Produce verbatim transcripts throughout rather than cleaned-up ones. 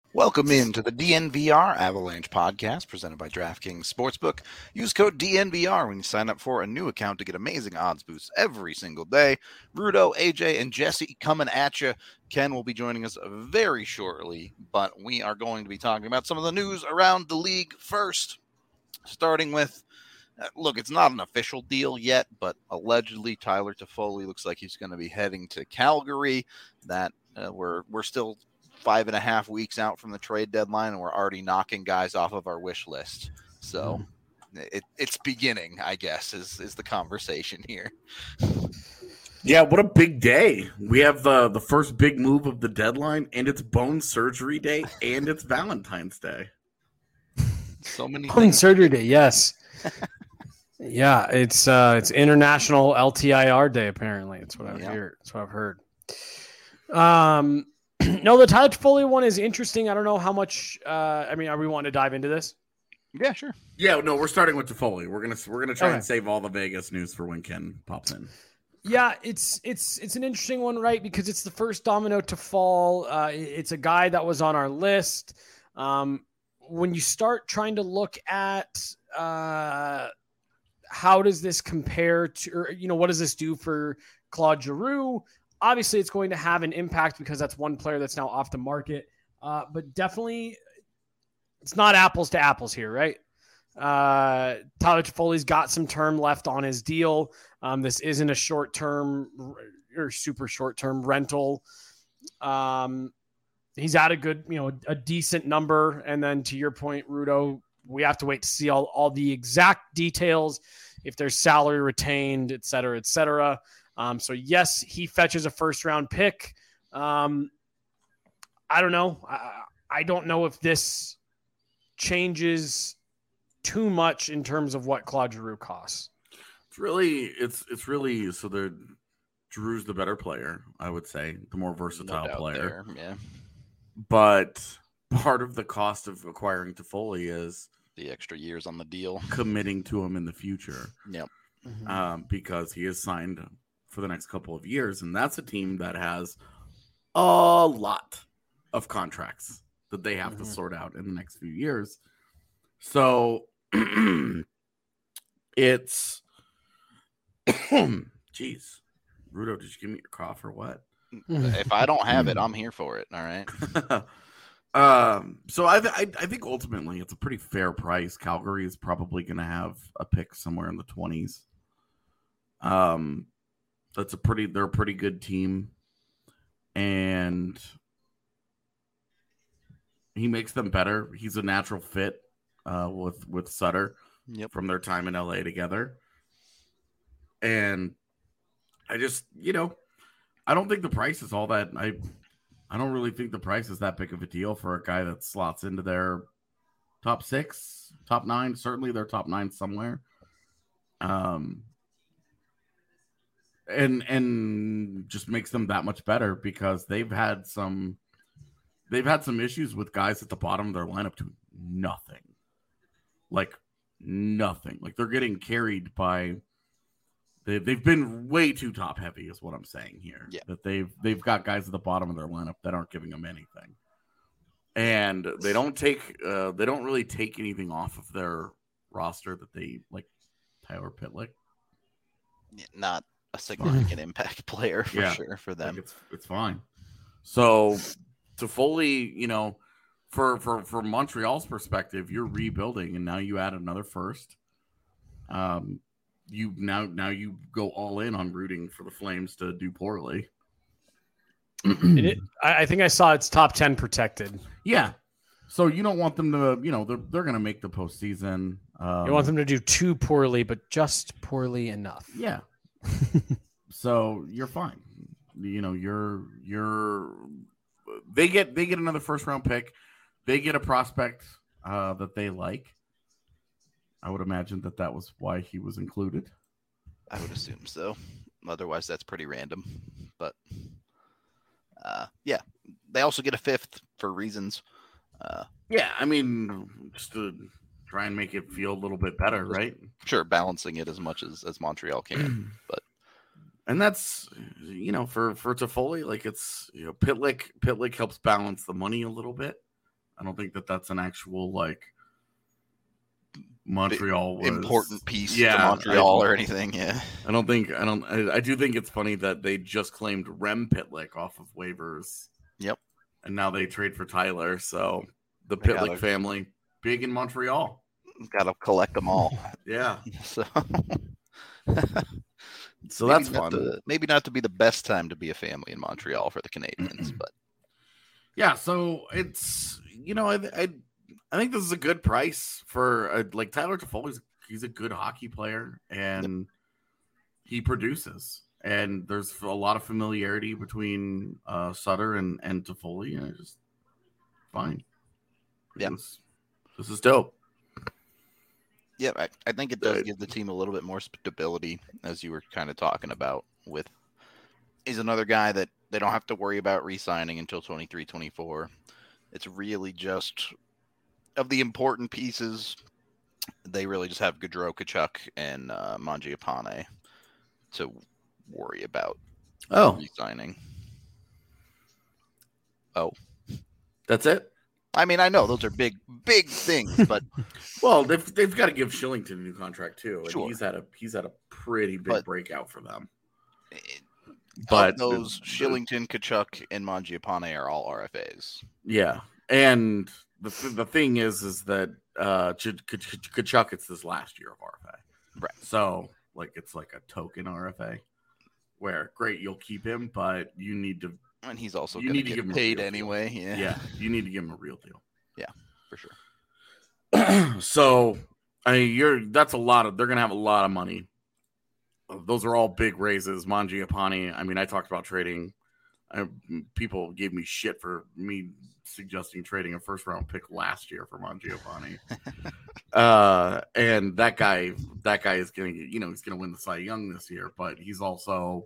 Welcome into the D N V R Avalanche podcast presented by DraftKings Sportsbook. Use code D N V R when you sign up for a new account to get amazing odds boosts every single day. Rudo, A J, and Jesse coming at you. Ken will be joining us very shortly, but we are going to be talking about some of the news around the league first, starting with, uh, look, it's not an official deal yet, but allegedly Tyler Toffoli looks like he's going to be heading to Calgary. That uh, we're we're still five and a half weeks out from the trade deadline, and we're already knocking guys off of our wish list. So it, it's beginning, I guess, is is the conversation here. Yeah, what a big day. We have the, the first big move of the deadline, and it's bone surgery day, and it's Valentine's Day. So many bone things. surgery day, yes. yeah, it's uh, it's International L T I R Day, apparently. That's what I've Yeah. heard. That's what I've heard. Um No, the Tyler Toffoli one is interesting. I don't know how much. Uh, I mean, are we wanting to dive into this? Yeah, sure. Yeah, no, we're starting with Toffoli. We're gonna we're gonna try Okay. and save all the Vegas news for when Ken pops in. Yeah, it's it's it's an interesting one, right? Because it's the first domino to fall. Uh, it's a guy that was on our list. Um, when you start trying to look at uh, how does this compare to, or, you know, what does this do for Claude Giroux? Obviously, it's going to have an impact because that's one player that's now off the market. Uh, but definitely, it's not apples to apples here, right? Uh, Tyler Toffoli's got some term left on his deal. Um, this isn't a short-term or super short-term rental. Um, he's at a good, you know, a decent number. And then to your point, Rudo, we have to wait to see all, all the exact details, if there's salary retained, et cetera, et cetera. Um, so yes, he fetches a first round pick. Um, I don't know. I, I don't know if this changes too much in terms of what Claude Giroux costs. It's really it's it's really so the Drew's the better player, I would say, the more versatile No doubt player. there, yeah. But part of the cost of acquiring Toffoli is The extra years on the deal. committing to him in the future. Yep. Mm-hmm. Um, because he is signed for the next couple of years, and that's a team that has a lot of contracts that they have Mm-hmm. to sort out in the next few years. So it's geez, Rudo, did you give me your cough or what? If I don't have it, I'm here for it. All right. um, so I, I I think ultimately it's a pretty fair price. Calgary is probably going to have a pick somewhere in the twenties. Um, that's a pretty they're a pretty good team, and he makes them better. He's a natural fit uh, with with Sutter Yep. from their time in L A together, and I just you know I don't think the price is all that I. I don't really think the price is that big of a deal for a guy that slots into their top six, top nine, certainly their top nine somewhere. Um, and and just makes them that much better because they've had some they've had some issues with guys at the bottom of their lineup doing nothing. Like nothing. Like they're getting carried by They've, they've been way too top heavy is what I'm saying here. Yeah. That they've they've got guys at the bottom of their lineup that aren't giving them anything. And they don't take uh, they don't really take anything off of their roster that they like Tyler Pitlick. Not a significant impact player for Yeah. sure for them. Like it's it's fine. So Toffoli, you know, for for for Montreal's perspective, you're rebuilding and now you add another first. Um You now now you go all in on rooting for the Flames to do poorly. And it, I I think I saw it's top ten protected. Yeah, so you don't want them to, you know, they're they're going to make the postseason. Um, You want them to do too poorly, but just poorly enough. yeah. So you're fine. You know, you're you're they get they get another first round pick. They get a prospect uh, that they like. I would imagine that that was why he was included. I would assume so. Otherwise, that's pretty random. But uh, yeah, they also get a fifth for reasons. Uh, Yeah, I mean, just to try and make it feel a little bit better, right? sure, balancing it as much as, as Montreal can. But And that's, you know, for for Toffoli, like it's, you know, Pitlick Pitlick helps balance the money a little bit. I don't think that that's an actual like Montreal was, important piece yeah, to Montreal I, or anything. Yeah, I don't think I don't. I, I do think it's funny that they just claimed Rem Pitlick off of waivers. Yep, and now they trade for Tyler. So the They Pitlick gotta- family, big in Montreal. got to collect them all. Yeah, So, so maybe that's not fun. to- maybe not to be the best time to be a family in Montreal for the Canadians, but Yeah, so it's you know I I, I think this is a good price for a, like Tyler Toffoli's. He's a good hockey player and he produces. And there's a lot of familiarity between uh, Sutter and and Toffoli, and it's just fine. Yeah, this, this is dope. yeah, I, I think it does Good. give the team a little bit more stability, as you were kind of talking about. With he's another guy that they don't have to worry about re-signing until twenty-three twenty-four. It's really just of the important pieces. They really just have Gaudreau, Tkachuk, and uh, Mangiapane to worry about Oh, re-signing. Oh, that's it. I mean, I know those are big, big things, but Well, they've they've got to give Shillington a new contract too, and Sure. he's had a he's had a pretty big But- breakout for them. it, But of those the- Shillington, Tkachuk, and Mangiapane are all R F As. Yeah, and the the thing is, is that uh, Ch- Ch- Tkachuk, it's his last year of R F A, Right. So like it's like a token R F A, where great you'll keep him, but you need to And he's also You going to need to get give him a paid real deal. anyway. Yeah, yeah, you need to give him a real deal. for sure. So I mean, you're that's a lot of they're gonna have a lot of money. Those are all big raises. Mangiapane. I mean, I talked about trading. I, people gave me shit for me suggesting trading a first round pick last year for Mangiapane. uh, and that guy, that guy is gonna, you know, he's gonna win the Cy Young this year, but he's also,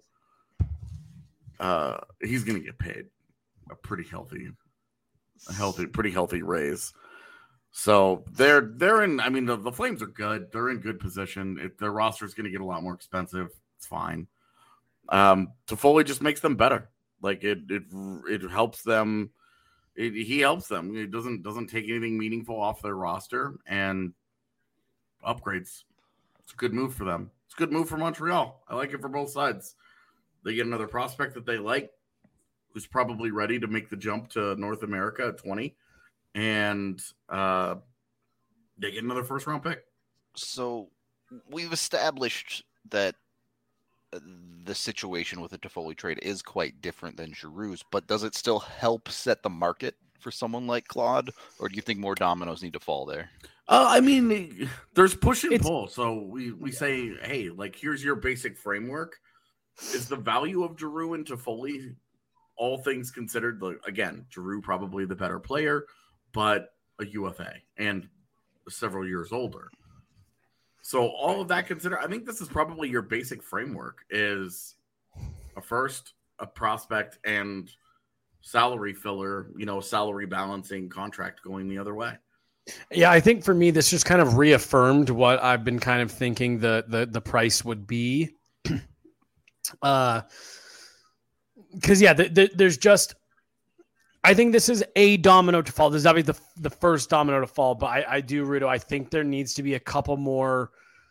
uh, he's gonna get paid a pretty healthy, a healthy, pretty healthy raise. So they're they're in. I mean, the, the Flames are good. They're in good position. If their roster is going to get a lot more expensive, it's fine. Um, Toffoli just makes them better. Like it it it helps them. It, he helps them. It doesn't doesn't take anything meaningful off their roster and upgrades. It's a good move for them. It's a good move for Montreal. I like it for both sides. They get another prospect that they like, who's probably ready to make the jump to North America at twenty. And uh, they get another first round pick. So we've established that the situation with the Toffoli trade is quite different than Giroux's, but does it still help set the market for someone like Claude, or do you think more dominoes need to fall there? Uh, I mean, there's push and It's- pull. So we, we say, hey, like, here's your basic framework. Is the value of Giroux and Toffoli, all things considered, like, again, Giroux probably the better player, but a U F A and several years older. So all of that considered, I think this is probably your basic framework is a first, a prospect, and salary filler, you know, salary balancing contract going the other way. Yeah, I think for me, this just kind of reaffirmed what I've been kind of thinking the the, the price would be. uh, because yeah, the, the, there's just, I think this is a domino to fall. This is obviously the the first domino to fall, but I, I do, Rudo, I think there needs to be a couple more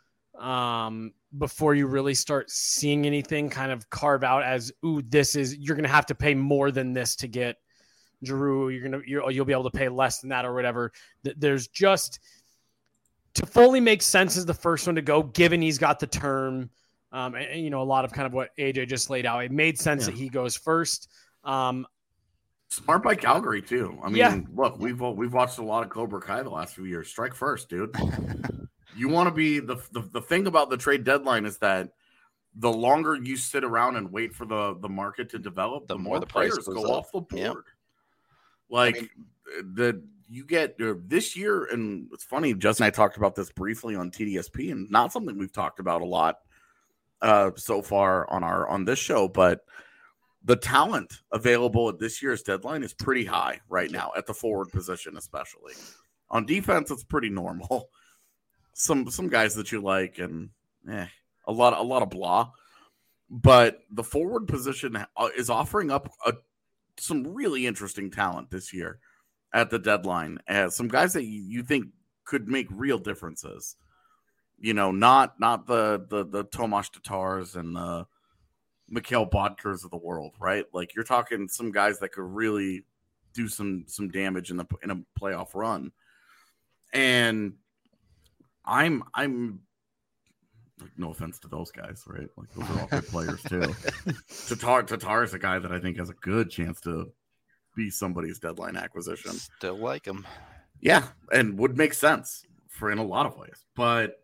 um, before you really start seeing anything kind of carve out as, ooh, this is, you're going to have to pay more than this to get Giroux. You're going to, you're, you'll be able to pay less than that or whatever. There's just, Toffoli makes sense as the first one to go, given he's got the term. Um, and, and, you know, a lot of kind of what A J just laid out. It made sense Yeah. that he goes first. Um, Smart by Calgary too. I mean, Yeah. look, we've we've watched a lot of Cobra Kai the last few years. Strike first, dude. You want to be the, the the thing about the trade deadline is that the longer you sit around and wait for the the market to develop, the, The more, more the price players goes go up. off the board. Yep. Like I mean- the you get uh, this year, and it's funny. Justin and I talked about this briefly on T D S P, and not something we've talked about a lot uh, so far on our on this show, but. The talent available at this year's deadline is pretty high right now at the forward position, especially on defense. It's pretty normal. Some some guys that you like, and eh, a lot a lot of blah. But the forward position is offering up a, some really interesting talent this year, at the deadline as some guys that you, you think could make real differences. You know, not not the the the Tomas Tatars and the Mikhail Bodkers of the world, right? Like you're talking some guys that could really do some some damage in the in a playoff run. And I'm I'm like, no offense to those guys, right? Like those are all good players too. Tatar Tatar is a guy that I think has a good chance to be somebody's deadline acquisition. Still like him. Yeah, and would make sense for in a lot of ways. But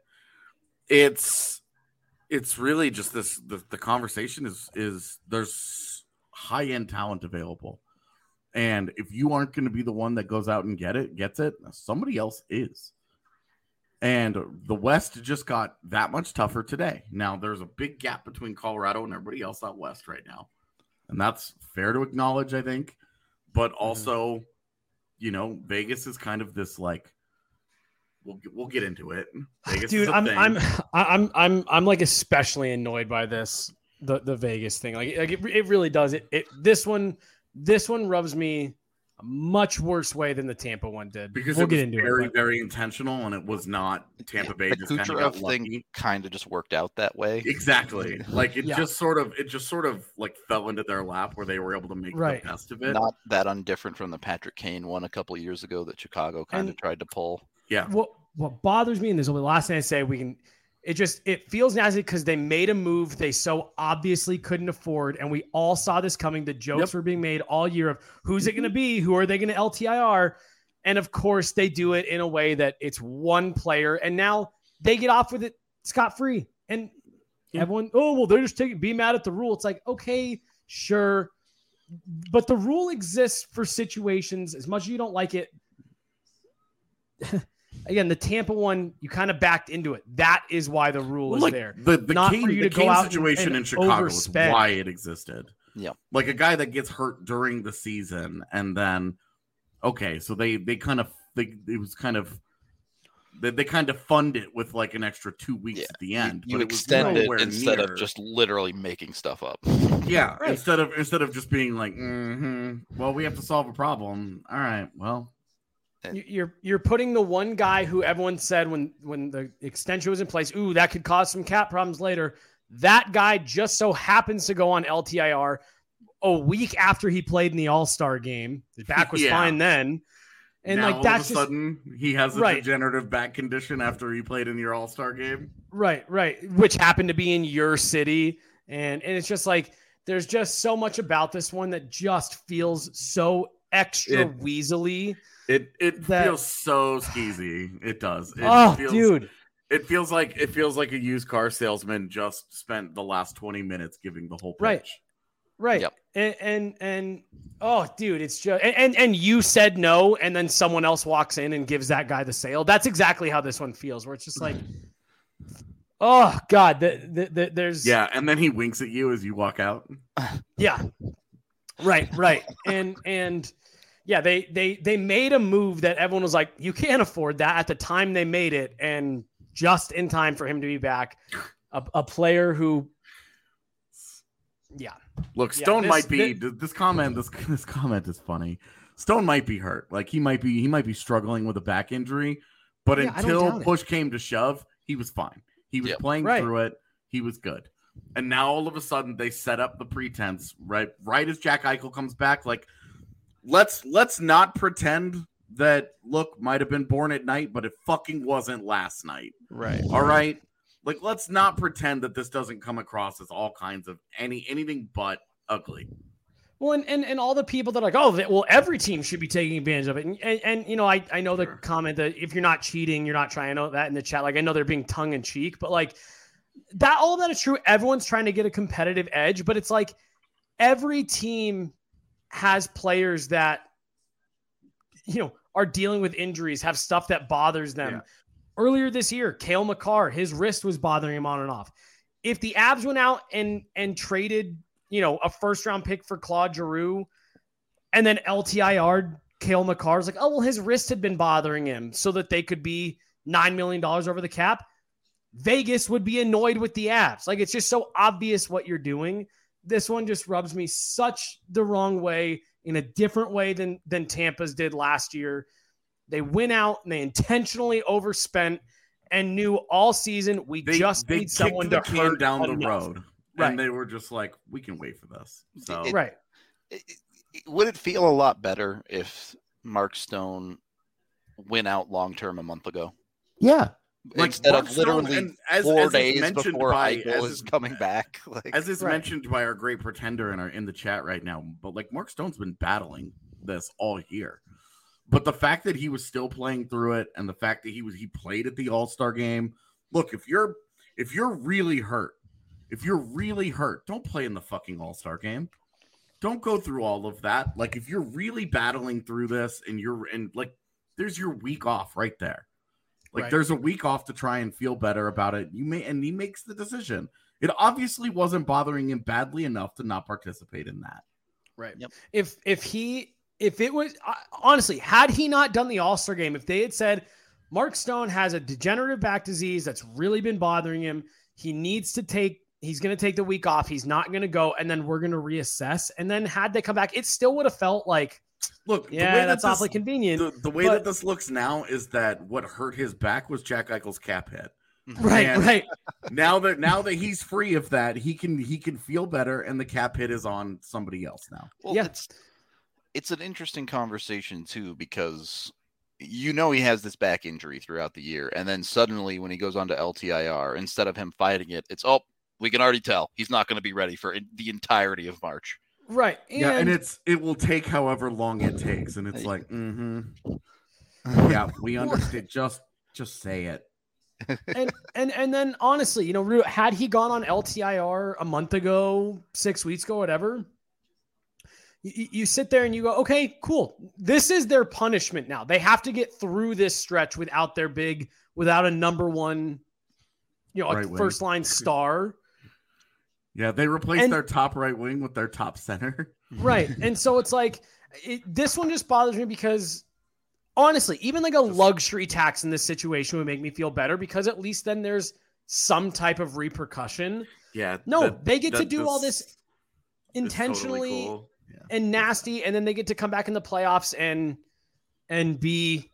it's it's really just this the, the conversation is is there's high end talent available. And if you aren't going to be the one that goes out and get it, gets it, somebody else is. And the West just got that much tougher today. Now there's a big gap between Colorado and everybody else out West right now. And that's fair to acknowledge, I think. But also, mm-hmm. you know, Vegas is kind of this like, we'll we'll get into it. Vegas Dude, is a I'm thing. I'm I'm I'm I'm like especially annoyed by this the the Vegas thing. Like, like it, it really does. It it this one this one rubs me a much worse way than the Tampa one did. Because we'll it was get into very, it, but... very intentional, and it was not Tampa Bay. The just kind of Kucherov got thing lucky. kind of just worked out that way. Exactly. Like it Yeah. just sort of, it just sort of like fell into their lap where they were able to make Right. the best of it. Not that undifferent from the Patrick Kane one a couple of years ago that Chicago kind of And- tried to pull. Yeah. What what bothers me, and this will be the last thing I say, we can it just it feels nasty because they made a move they so obviously couldn't afford, and we all saw this coming. The jokes Yep. were being made all year of who's it going to be, who are they going to L T I R, and of course they do it in a way that it's one player, and now they get off with it scot free, and Yeah. everyone, oh well, they're just taking be mad at the rule. It's like, okay, sure, but the rule exists for situations. As much as you don't like it. Again, the Tampa one, you kind of backed into it. That is why the rule is Like, there. the the Not Kane, for you the to go Kane out and- situation and in Chicago is overspend. why it existed. Yeah. Like a guy that gets hurt during the season, and then okay, so they they kind of they it was kind of they, they kind of fund it with like an extra two weeks Yeah. at the end. You but it was extend it nowhere instead near- of just literally making stuff up. yeah, Right. instead of instead of just being like, mm-hmm, well, we have to solve a problem. All right, well. You- You're you're putting the one guy who everyone said when when the extension was in place, ooh, that could cause some cap problems later. That guy just so happens to go on L T I R a week after he played in the All-Star game. His back was Yeah. fine then. And now, like that's all just of a sudden he has a Right. degenerative back condition after he played in your All-Star game. right, right, which happened to be in your city. And and it's just like there's just so much about this one that just feels so extra It- weaselly. It it That- feels so skeezy. It does. It Oh, feels, dude. It feels like it feels like a used car salesman just spent the last twenty minutes giving the whole pitch. Right. Right. Yep. And, and and oh dude, it's just and, and and you said no, and then someone else walks in and gives that guy the sale. That's exactly how this one feels, where it's just like, oh God, the, the, the, there's Yeah, and then he winks at you as you walk out. yeah. Right, right. And and yeah, they they they made a move that everyone was like, you can't afford that at the time they made it, and just in time for him to be back. A, a player who yeah. Look, Yeah, Stone this- might be thi- this comment. This this comment is funny. Stone might be hurt. Like he might be he might be struggling with a back injury. But Yeah, I don't until doubt it. push came to shove, he was fine. He was Yep. playing Right. through it. He was good. And now all of a sudden they set up the pretense right right as Jack Eichel comes back. Like let's let's not pretend that look might have been born at night, but it fucking wasn't last night. Right. All right. Like, let's not pretend that this doesn't come across as all kinds of any anything but ugly. Well, and, and, and all the people that are like, oh, that, well, every team should be taking advantage of it. And, and, and you know, I, I know the Sure. comment comment that if you're not cheating, you're not trying. I know that in the chat. Like, I know they're being tongue in cheek, but like that, all of that is true. Everyone's trying to get a competitive edge, but it's like every team has players that, you know, are dealing with injuries, have stuff that bothers them. Yeah. Earlier this year, Cale Makar, his wrist was bothering him on and off. If the Abs went out and and traded, you know, a first round pick for Claude Giroux, and then L T I R'd Cale Makar, like, oh well, his wrist had been bothering him, so that they could be nine million dollars over the cap. Vegas would be annoyed with the Abs. Like, it's just so obvious what you're doing this one just rubs me such the wrong way in a different way than, than Tampa's did last year. They went out and they intentionally overspent and knew all season we They, just they need someone kicked to the can hurt down enough. the road. Right. And they were just like, we can wait for this. So It- Right. It- it- would it feel a lot better if Mark Stone went out long term a month ago? Yeah. like Instead Mark of Stone, literally and as, four as is days mentioned before by, Eichel as is is, coming back. Like, as is Right. mentioned by our great pretender in our in the chat right now. But like Mark Stone's been battling this all year. But the fact that he was still playing through it, and the fact that he was he played at the All-Star game. Look, if you're if you're really hurt, if you're really hurt, don't play in the fucking All-Star game. Don't go through all of that. Like if you're really battling through this and you're and like there's your week off right there. Like Right. there's a week off to try and feel better about it. You may and he makes the decision. It obviously wasn't bothering him badly enough to not participate in that. Right. Yep. If if he if it was uh, honestly, had he not done the All-Star game, if they had said Mark Stone has a degenerative back disease that's really been bothering him, he needs to take he's going to take the week off, he's not going to go, and then we're going to reassess. And then had they come back, it still would have felt like, Look, yeah, the way that's that awfully this, convenient. The, the way but- that this looks now is that what hurt his back was Jack Eichel's cap hit. right, and- right. Now that now that he's free of that, he can he can feel better, and the cap hit is on somebody else now. well, Yeah. it's it's an interesting conversation too, because you know he has this back injury throughout the year, and then suddenly when he goes on to L T I R, instead of him fighting it, it's oh, we can already tell he's not going to be ready for in- the entirety of March. Right. And, Yeah, and it's it will take however long it takes, and it's like, mm-hmm. Yeah, we understand. Just just say it. and and and then honestly, you know, Ru- had he gone on L T I R a month ago, six weeks ago, whatever, you, you sit there and you go, okay, cool. This is their punishment now. They have to get through this stretch without their big, without a number one, you know, a Right wing. first line star. Yeah, they replaced And- their top right wing with their top center. Right. And so it's like, it, this one just bothers me because honestly, even like a luxury tax in this situation would make me feel better, because at least then there's some type of repercussion. Yeah, No, that- they get to that- do all this this is totally intentionally cool. Yeah. and nasty, and then they get to come back in the playoffs and and be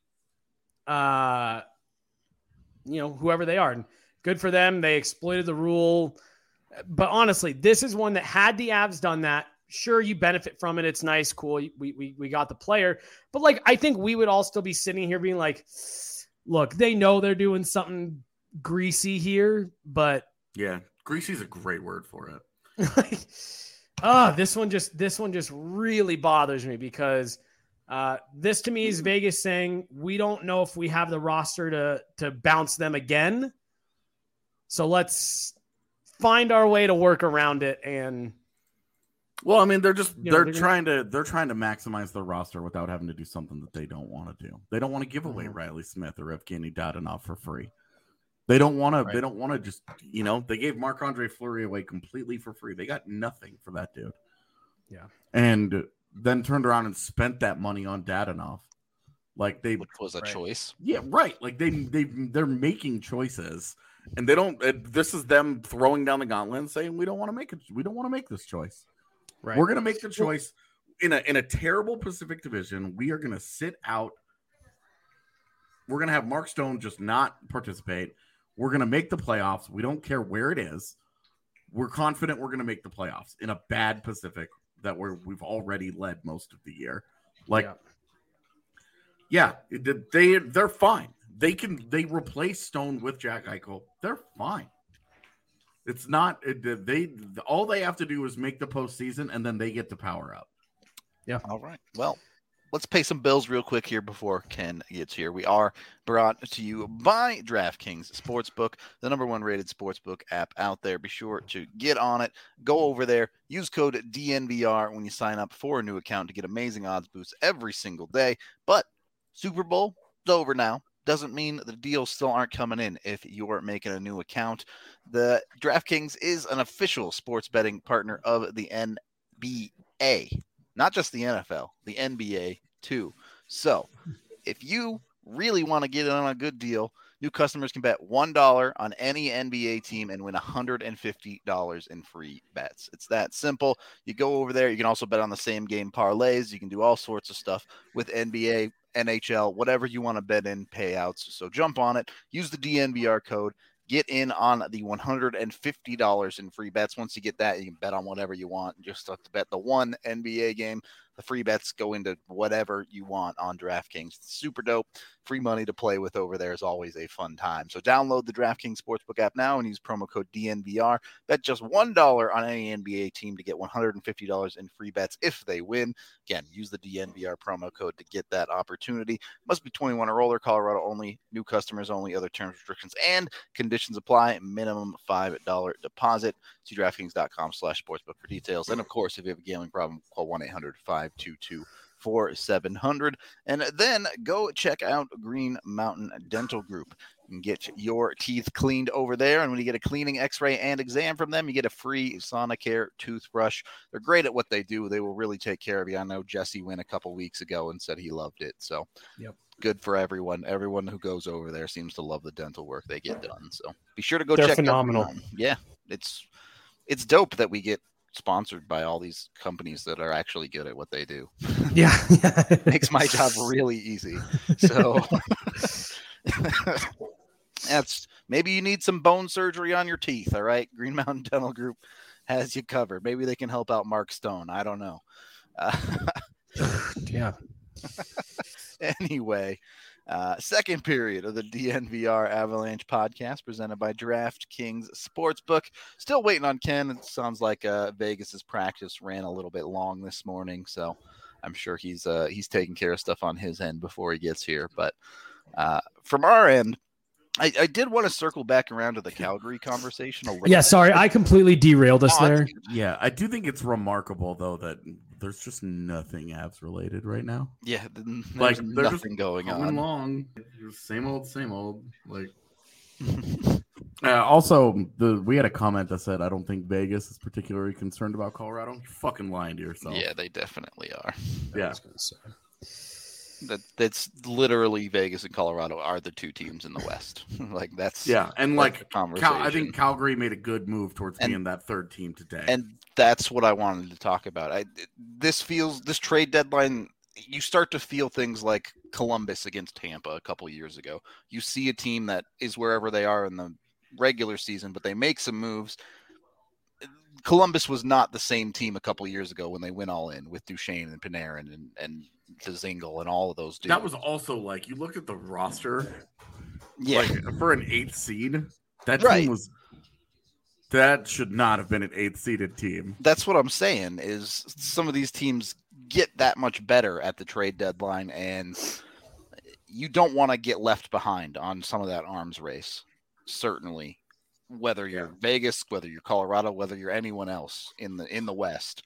uh you know, whoever they are. And good for them. They exploited the rule. But honestly, this is one that had the Avs done that, sure, you benefit from it. It's nice, cool. We we we got the player. But like, I think we would all still be sitting here being like, look, they know they're doing something greasy here, but Yeah, greasy's a great word for it. like, oh, this one just this one just really bothers me, because uh, this to me is Vegas saying we don't know if we have the roster to to bounce them again. So let's find our way to work around it. And Well, I mean, they're just You know, they're they're gonna- trying to they're trying to maximize their roster without having to do something that they don't want to do. They don't want to give away Mhm. Riley Smith or Evgeny Dadonov for free. They don't want to. Right. They don't want to just you know. They gave Marc-Andre Fleury away completely for free. They got nothing for that dude. Yeah. And then turned around and spent that money on Dadonov. Like they, Which was a Right. choice. yeah, right. Like they they they're making choices, and they don't. It, this is them throwing down the gauntlet and saying we don't want to make it. We don't want to make this choice. right. We're going to make the choice in a in a terrible Pacific Division. We are going to sit out. We're going to have Mark Stone just not participate. We're going to make the playoffs. We don't care where it is. We're confident we're going to make the playoffs in a bad Pacific that we're we've already led most of the year. Like, Yeah. yeah, it- they they're fine. They can they replace Stone with Jack Eichel. They're fine. It's not it, they all they have to do is make the postseason, and then they get to power up. All right. Well, let's pay some bills real quick here before Ken gets here. We are brought to you by DraftKings Sportsbook, the number one rated sportsbook app out there. Be sure to get on it. Go over there. Use code D N V R when you sign up for a new account to get amazing odds boosts every single day. But Super Bowl is over now. Doesn't mean the deals still aren't coming in if you're making a new account. The DraftKings is an official sports betting partner of the N B A. Not just the N F L, the N B A too. So if you really want to get in on a good deal, New customers can bet one dollar on any N B A team and win one hundred fifty dollars in free bets. It's that simple. You go over there. You can also bet on the same game parlays. You can do all sorts of stuff with N B A, N H L, whatever you want to bet in payouts. So jump on it. Use the D N V R code. Get in on the one hundred fifty dollars in free bets. Once you get that, you can bet on whatever you want. You just have to bet the one N B A game. The free bets go into whatever you want on DraftKings. It's super dope. Free money to play with over there is always a fun time. So download the DraftKings Sportsbook app now and use promo code D N V R. Bet just one dollar on any N B A team to get one hundred fifty dollars in free bets if they win. Again, use the D N V R promo code to get that opportunity. Must be twenty-one or older, Colorado only, new customers only, other terms, restrictions, and conditions apply. Minimum five dollar deposit. See DraftKings.com slash sportsbook for details. And, of course, if you have a gambling problem, call one eight hundred five two two four seven zero zero. And then go check out Green Mountain Dental Group and get your teeth cleaned over there. And when you get a cleaning, x-ray, and exam from them, you get a free Sonicare toothbrush. They're great at what they do. They will really take care of you. I know Jesse went a couple weeks ago and said he loved it. So yep. Good for everyone. Everyone who goes over there seems to love the dental work they get done. So be sure to go They're check phenomenal. out. Yeah, it's it's dope that we get sponsored by all these companies that are actually good at what they do. Yeah. Makes my job really easy. So that's maybe you need some bone surgery on your teeth. All right. Green Mountain Dental Group has you covered. Maybe they can help out Mark Stone. I don't know. Uh, yeah. Anyway, uh, second period of the D N V R Avalanche podcast presented by DraftKings Sportsbook. Still waiting on Ken. It sounds like uh, Vegas's practice ran a little bit long this morning, so I'm sure he's uh, he's taking care of stuff on his end before he gets here. But uh, from our end, I, I did want to circle back around to the Calgary conversation a little Yeah, bit. sorry, I completely derailed us Oh, there. Yeah, I do think it's remarkable though that there's just nothing Avs related right now. Yeah, there's Like they're nothing just going coming on. along, same old, same old. Like, uh, also, the we had a comment that said, "I don't think Vegas is particularly concerned about Colorado." You're fucking lying to yourself. Yeah, they definitely are. yeah. That that's literally Vegas and Colorado are the two teams in the West. Like that's Yeah, and like the Cal- conversation. I think Calgary made a good move towards And- being that third team today. And that's what I wanted to talk about. I this feels this trade deadline. You start to feel things like Columbus against Tampa a couple years ago. You see a team that is wherever they are in the regular season, but they make some moves. Columbus was not the same team a couple years ago when they went all in with Duchesne and Panarin and and Dzingel and all of those dudes. that was also like you looked at the roster, yeah. like for an eighth seed, that Right. team was that should not have been an eighth seeded team. That's what I'm saying is some of these teams get that much better at the trade deadline, and you don't want to get left behind on some of that arms race. Certainly, whether you're Yeah. Vegas, whether you're Colorado, whether you're anyone else in the in the West,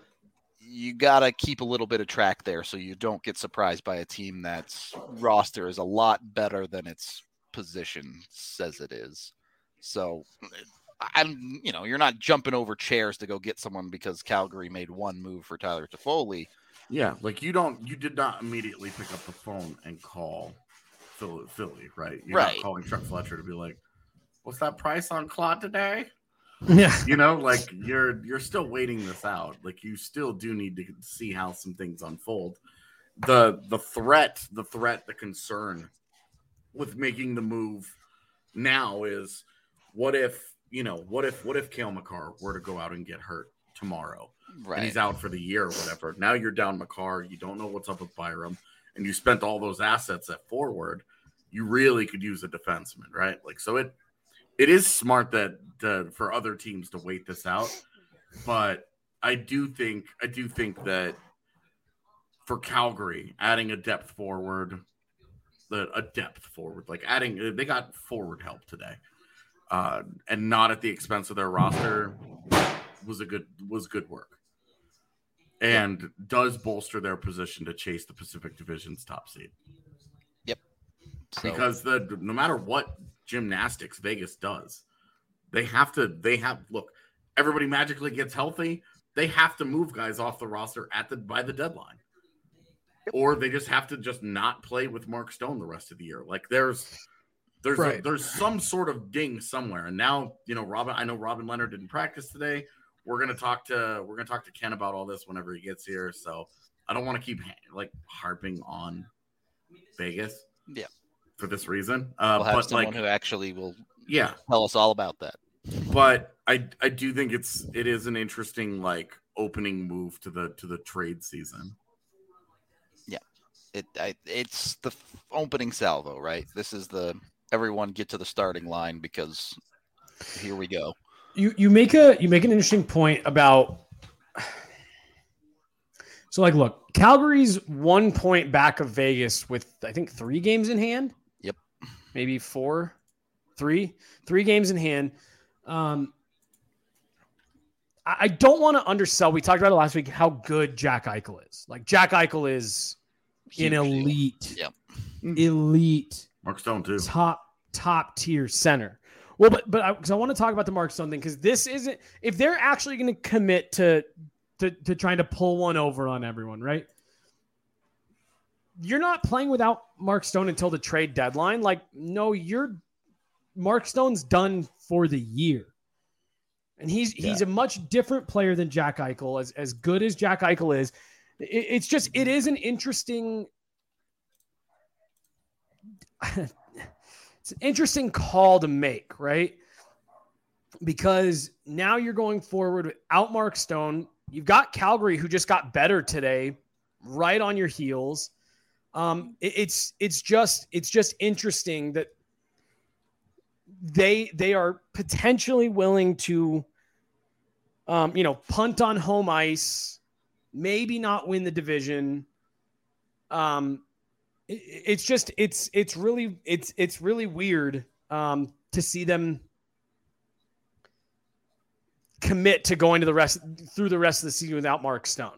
you got to keep a little bit of track there so you don't get surprised by a team that's roster is a lot better than its position says it is. So I'm, you know, you're not jumping over chairs to go get someone because Calgary made one move for Tyler Toffoli. Yeah, like you don't, you did not immediately pick up the phone and call Philly, Philly right? You're Right. not calling Chuck Fletcher to be like, "What's that price on Claude today?" Yeah. You know, like you're you're still waiting this out. Like you still do need to see how some things unfold. The the threat, the threat, the concern with making the move now is what if, you know, what if what if Cale Makar were to go out and get hurt tomorrow? Right. And he's out for the year or whatever. Now you're down Makar. You don't know what's up with Byram, and you spent all those assets at forward. You really could use a defenseman, right? Like, so it it is smart that uh, for other teams to wait this out. But I do think I do think that for Calgary, adding a depth forward, the a depth forward, like adding they got forward help today, uh, and not at the expense of their roster, was a good was good work. And does bolster their position to chase the Pacific Division's top seed. Yep. So, Because the no matter what gymnastics Vegas does, they have to they have look, everybody magically gets healthy. They have to move guys off the roster at the by the deadline. Or they just have to just not play with Mark Stone the rest of the year. Like there's There's Right. a, there's some sort of ding somewhere, and now you know Robin. I know Robin Leonard didn't practice today. We're gonna talk to we're gonna talk to Ken about all this whenever he gets here. So I don't want to keep like harping on Vegas. Yeah. For this reason, uh, We'll have but someone like who actually will yeah, tell us all about that. but I I do think it's it is an interesting like opening move to the to the trade season. Yeah, it I, it's the f- opening salvo, right? This is the everyone get to the starting line because here we go. You you make a you make an interesting point about. So like, look, Calgary's one point back of Vegas with I think three games in hand. Yep, maybe four, three, three games in hand. Um, I, I don't want to undersell. We talked about it last week. How good Jack Eichel is. Like Jack Eichel is Huge an deal. elite, Yep. elite, Mark Stone too. top top tier center. Well, but but because I, I want to talk about the Mark Stone thing because this isn't if they're actually going to commit to, to to trying to pull one over on everyone, right? You're not playing without Mark Stone until the trade deadline. Like, no, you're Mark Stone's done for the year, and he's Yeah. he's a much different player than Jack Eichel. As as good as Jack Eichel is, it, it's just it is an interesting. It's an interesting call to make, right? Because now you're going forward without Mark Stone. You've got Calgary, who just got better today, right on your heels. Um, it, it's it's just it's just interesting that they they are potentially willing to, um, you know, punt on home ice, maybe not win the division. Um. It's just it's it's really it's it's really weird um, to see them commit to going to the rest through the rest of the season without Mark Stone,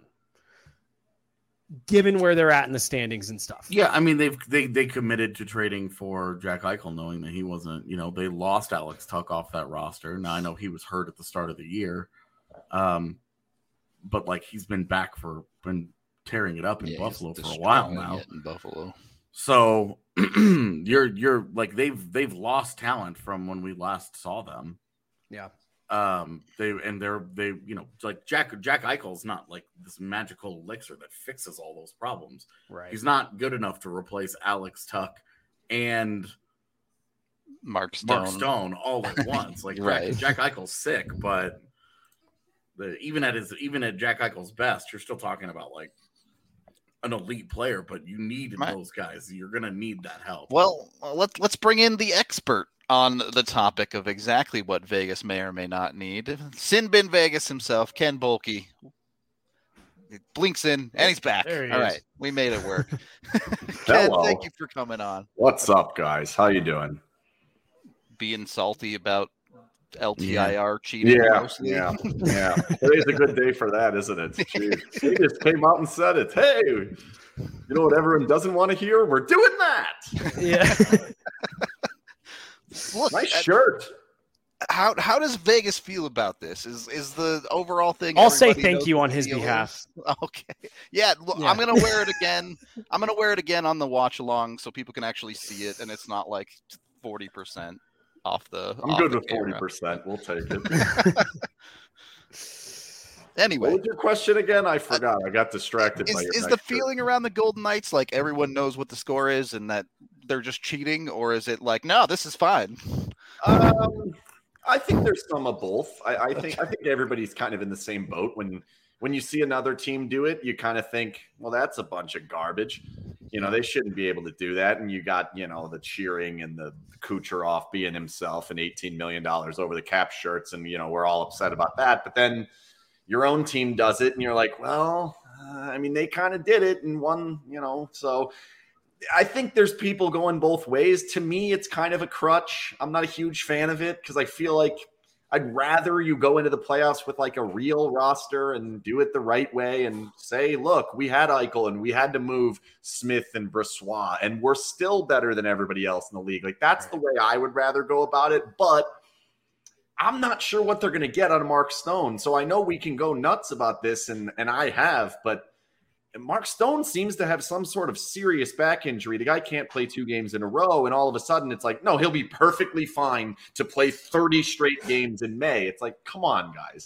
given where they're at in the standings and stuff. Yeah, I mean they've they they committed to trading for Jack Eichel, knowing that he wasn't. You know, they lost Alex Tuck off that roster. Now I know he was hurt at the start of the year, um, but like he's been back for been tearing it up in Yeah, Buffalo he's for a while destroying now. it in Buffalo. So you're you're like they've they've lost talent from when we last saw them. Yeah. Um. They and they're they you know like Jack Jack Eichel's not like this magical elixir that fixes all those problems. Right. He's not good enough to replace Alex Tuck and Mark Stone. Mark Stone all at once. Like Right. Jack, Jack Eichel's sick, but the even at his even at Jack Eichel's best, you're still talking about like an elite player, but you need Right. those guys. You're gonna need that help. Well, let's let's bring in the expert on the topic of exactly what Vegas may or may not need. Sin Bin Vegas himself, Ken Bolke. He blinks in and he's back. There he All is. right, we made it work. Ken, Hello. thank you for coming on. What's up, guys? How you doing? Being salty about L T I R cheating. Yeah, mostly. yeah, yeah. Today's a good day for that, isn't it? Jeez. They just came out and said it. Hey, you know what everyone doesn't want to hear? We're doing that. Yeah. Look, Nice uh, shirt. how how does Vegas feel about this? Is is the overall thing? I'll say everybody thank knows you what on the his deal behalf. is? Okay. Yeah, look, Yeah. I'm gonna wear it again. I'm gonna wear it again on the watch along so people can actually see it, and it's not like forty percent off the. I'm off good the with forty camera. percent. We'll take it. Anyway, What was your question again? I forgot. I got distracted is by your is the next shirt. feeling around the Golden Knights like everyone knows what the score is and that they're just cheating, or is it like no, this is fine? Um, I think there's some of both. I, I think I think everybody's kind of in the same boat. When when you see another team do it, you kind of think, well, that's a bunch of garbage. You know, they shouldn't be able to do that. And you got, you know, the cheering and the Kucherov being himself and eighteen million dollars over the cap shirts. And, you know, we're all upset about that. But then your own team does it and you're like, well, uh, I mean, they kind of did it and won, you know, so I think there's people going both ways. To me, it's kind of a crutch. I'm not a huge fan of it because I feel like I'd rather you go into the playoffs with like a real roster and do it the right way and say, look, we had Eichel and we had to move Smith and Brossoit and we're still better than everybody else in the league. Like that's the way I would rather go about it. But I'm not sure what they're going to get out of Mark Stone. So I know we can go nuts about this and, and I have, but Mark Stone seems to have some sort of serious back injury. The guy can't play two games in a row, and all of a sudden it's like, no, he'll be perfectly fine to play thirty straight games in May. It's like, come on, guys.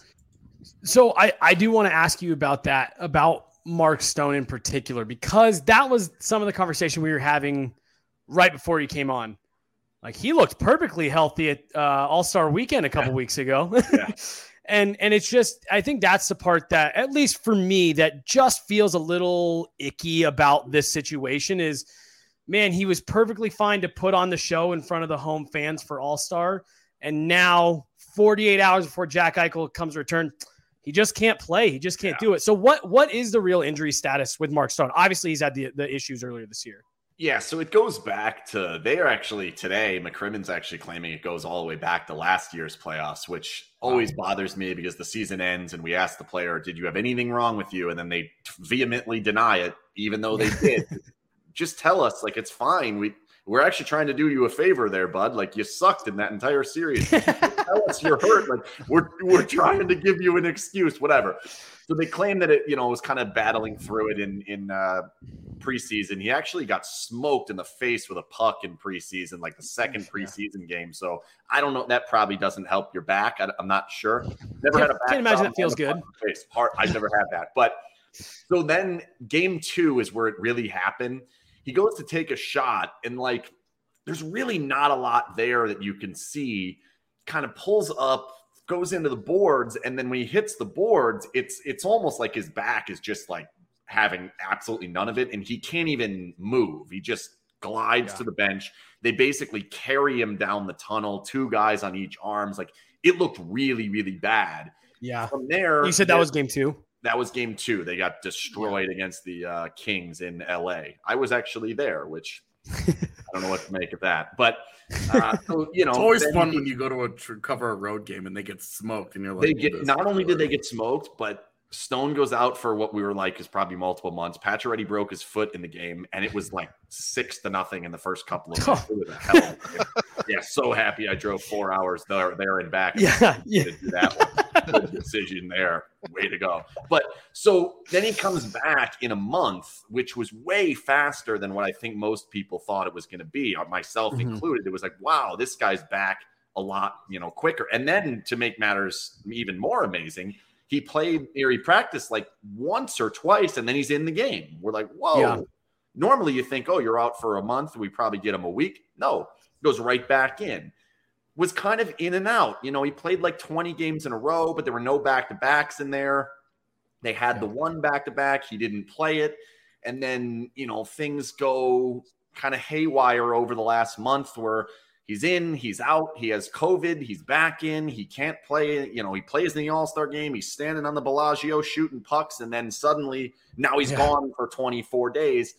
So I, I do want to ask you about that, about Mark Stone in particular, because that was some of the conversation we were having right before he came on. Like, he looked perfectly healthy at uh, All-Star Weekend a couple yeah. weeks ago. Yeah. And and it's just, I think that's the part that, at least for me, that just feels a little icky about this situation is, man, he was perfectly fine to put on the show in front of the home fans for All-Star. And now forty-eight hours before Jack Eichel comes to return, he just can't play. He just can't yeah. do it. So what what is the real injury status with Mark Stone? Obviously, he's had the, the issues earlier this year. Yeah, so it goes back to, they are actually today, McCrimmon's actually claiming it goes all the way back to last year's playoffs, which always bothers me because the season ends and we ask the player, did you have anything wrong with you? And then they vehemently deny it, even though they did. Just tell us, like, it's fine. We, we're actually trying to do you a favor there, bud. Like, you sucked in that entire series. Tell us you're hurt. Like, we're, we're trying to give you an excuse, whatever. So they claim that it, you know, was kind of battling through it in in uh, preseason. He actually got smoked in the face with a puck in preseason, like the second preseason game. So I don't know. That probably doesn't help your back. I, I'm not sure. Never had a back. Can't imagine it feels good. Face. Heart. I've never had that. But so then game two is where it really happened. He goes to take a shot, and like, there's really not a lot there that you can see. Kind of pulls up, goes into the boards, and then when he hits the boards, it's it's almost like his back is just like having absolutely none of it, and he can't even move. He just glides yeah. to the bench. They basically carry him down the tunnel, two guys on each arms. Like, it looked really, really bad. Yeah. From there, you said that was game two. That was game two. They got destroyed yeah. against the uh, Kings in L A. I was actually there, which I don't know what to make of that, but uh, so, you know, it's always fun when you go to a tr- cover a road game and they get smoked, and you're like, they get not only did they get smoked, but Stone goes out for what we were like is probably multiple months. Pacioretty broke his foot in the game, and it was like six to nothing in the first couple of minutes. It was a hell of a game. Yeah, so happy I drove four hours there, there and back. And yeah, yeah. To do that one. Good decision there. Way to go. But so then he comes back in a month, which was way faster than what I think most people thought it was going to be, myself mm-hmm. included. It was like, wow, this guy's back a lot, you know, quicker. And then to make matters even more amazing, he played or he practiced like once or twice, and then he's in the game. We're like, whoa. Yeah. Normally you think, oh, you're out for a month. We probably get him a week. No, goes right back in. Was kind of in and out. You know, he played like twenty games in a row, but there were no back-to-backs in there. They had yeah. the one back-to-back. He didn't play it. And then, you know, things go kind of haywire over the last month where he's in, he's out, he has COVID, he's back in, he can't play. You know, he plays in the All-Star game. He's standing on the Bellagio shooting pucks, and then suddenly now he's yeah. gone for twenty-four days.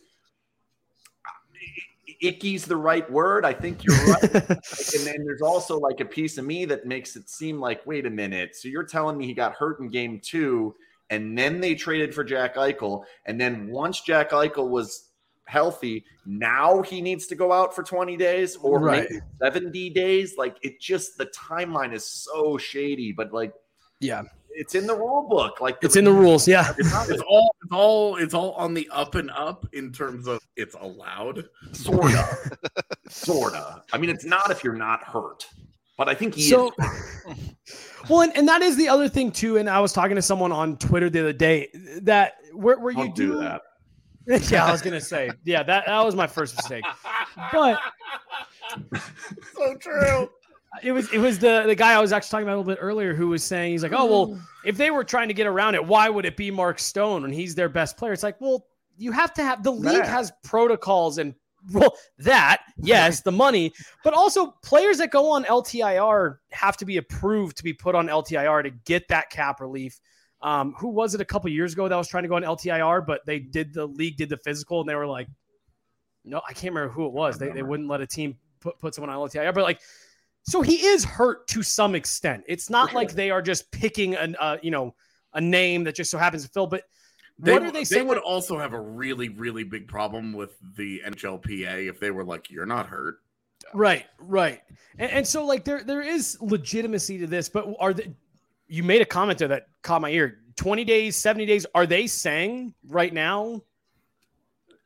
Icky's the right word. I think you're right. And then there's also like a piece of me that makes it seem like, wait a minute. So you're telling me he got hurt in game two, and then they traded for Jack Eichel. And then once Jack Eichel was healthy, now he needs to go out for twenty days or right. maybe seventy days. Like, it just, the timeline is so shady, but like, yeah, it's in the rule book. Like, the, it's in the rules. Yeah. It's, not, it's all, it's all, it's all on the up and up in terms of it's allowed. Sort of, sort of. I mean, it's not if you're not hurt, but I think he so, is. Well, and, and that is the other thing too. And I was talking to someone on Twitter the other day that where, where you Don't do, do that. Yeah, I was going to say, yeah, that, that was my first mistake, but so true. It was it was the, the guy I was actually talking about a little bit earlier who was saying, he's like, oh, well, if they were trying to get around it, why would it be Mark Stone when he's their best player? It's like, well, you have to have, the league that. has protocols and, well, that, yes, the money, but also players that go on L T I R have to be approved to be put on L T I R to get that cap relief. Um, who was it a couple years ago that was trying to go on L T I R, but they did, the league did the physical and they were like, no, I can't remember who it was. They, they wouldn't let a team put, put someone on L T I R, but like, so he is hurt to some extent. It's not like they are just picking an, uh, you know, a name that just so happens to fill. But they, what are they saying? They would also have a really, really big problem with the N H L P A if they were like, "You're not hurt." Right, right. And, and so, like, there there is legitimacy to this. But are the, you made a comment there that caught my ear? Twenty days, seventy days. Are they saying right now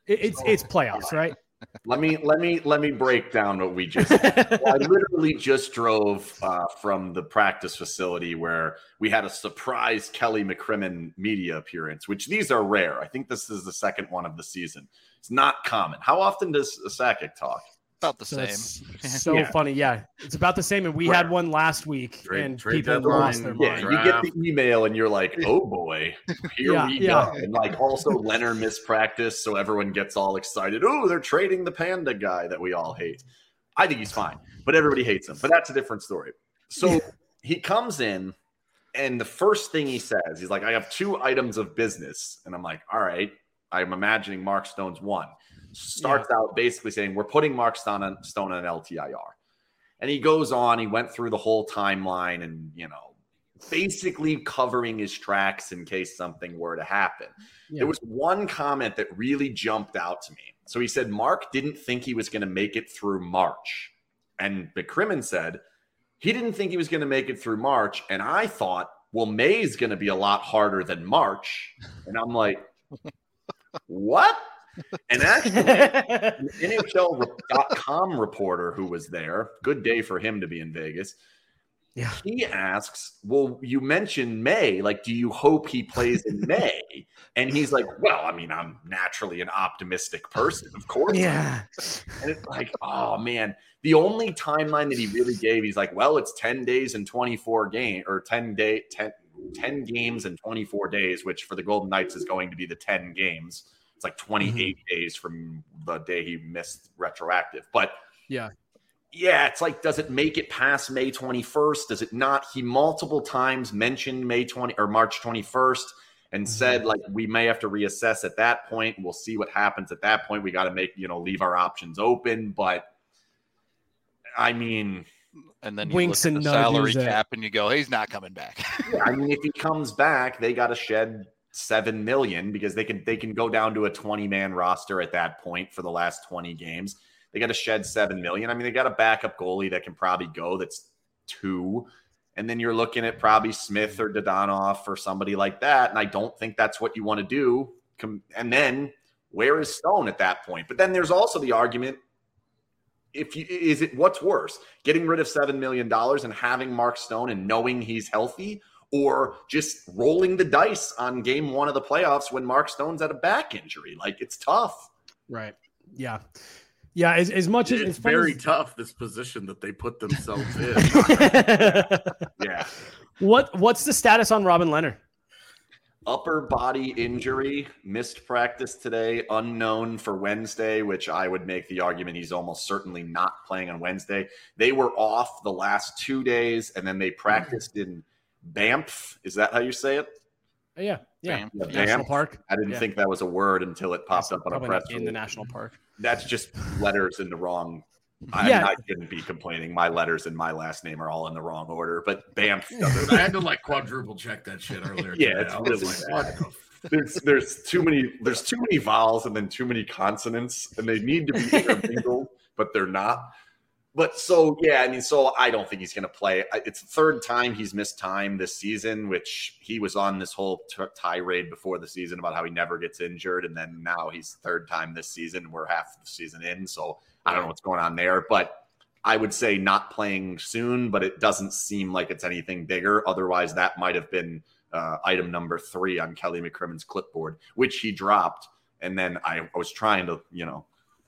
It, it's it's playoffs, right? Let me let me let me break down what we just did. Well, I literally just drove uh, from the practice facility where we had a surprise Kelly McCrimmon media appearance, which these are rare. I think this is the second one of the season. It's not common. How often does Sakic talk? About the So same. it's so Yeah. funny. Yeah, it's about the same. And we Right. had one last week, Trade- and trade people deadline. lost their Yeah, mind. you get the email and you're like, oh boy, here Yeah, we yeah. go. And like also Leonard missed practice, so everyone gets all excited. Oh, they're trading the panda guy that we all hate. I think he's fine, but everybody hates him. But that's a different story. So he comes in, and the first thing he says, he's like, I have two items of business. And I'm like, all right, I'm imagining Mark Stone's one. Starts out basically saying, we're putting Mark Stone on, Stone on L T I R. And he goes on, he went through the whole timeline and, you know, basically covering his tracks in case something were to happen. Yeah. There was one comment that really jumped out to me. So he said Mark didn't think he was going to make it through March. And McCrimmon said he didn't think he was going to make it through March. And I thought, well, May's going to be a lot harder than March. And I'm like, what? And actually, an N H L dot com reporter who was there, good day for him to be in Vegas. Yeah. He asks, well, you mentioned May. Like, do you hope he plays in May? And he's like, well, I mean, I'm naturally an optimistic person, of course. Yeah. And it's like, oh, man. The only timeline that he really gave, he's like, well, it's ten days and twenty-four game or ten day, ten, ten games and twenty-four days, which for the Golden Knights is going to be the ten games. It's like twenty-eight mm-hmm. days from the day he missed retroactive. But yeah, yeah, it's like, does it make it past May twenty-first? Does it not? He multiple times mentioned May twentieth or March twenty-first and mm-hmm. said, like, we may have to reassess at that point. We'll see what happens at that point. We got to make, you know, leave our options open. But I mean, and then you winks look at and the salary nudges cap and you go, he's not coming back. Yeah, I mean, if he comes back, they got to shed seven million because they can they can go down to a twenty man roster at that point for the last twenty games. They got to shed seven million. I mean, they got a backup goalie that can probably go. That's two, and then you're looking at probably Smith or Dadonov or somebody like that. And I don't think that's what you want to do. And then where is Stone at that point? But then there's also the argument: if you is it what's worse, getting rid of seven million dollars and having Mark Stone and knowing he's healthy, or just rolling the dice on game one of the playoffs when Mark Stone's at a back injury? Like, it's tough. Right. Yeah. Yeah. As, as much as it's as very as... tough, this position that they put themselves in. Yeah. What What's the status on Robin Leonard? Upper body injury, missed practice today, unknown for Wednesday, which I would make the argument he's almost certainly not playing on Wednesday. They were off the last two days, and then they practiced in Banff. Is that how you say it? Oh, yeah, yeah. Banff. Yeah, National Banff. Park. I didn't yeah. think that was a word until it popped That's up on a probably press not in release. the national park. That's just letters in the wrong. I, Yeah. I shouldn't be complaining. My letters and my last name are all in the wrong order, but Banff doesn't. I had to like quadruple check that shit earlier. Yeah, today. it's I was really like, bad. what the There's there's too many there's too many vowels and then too many consonants, and they need to be intermingled, but they're not. But so yeah, I mean, so I don't think he's going to play. It's the third time he's missed time this season, which he was on this whole t- tirade before the season about how he never gets injured, and then now he's third time this season. We're half the season in, so I don't know what's going on there, but I would say not playing soon. But it doesn't seem like it's anything bigger. Otherwise, that might have been uh, item number three on Kelly McCrimmon's clipboard, which he dropped, and then I, I was trying to, you know.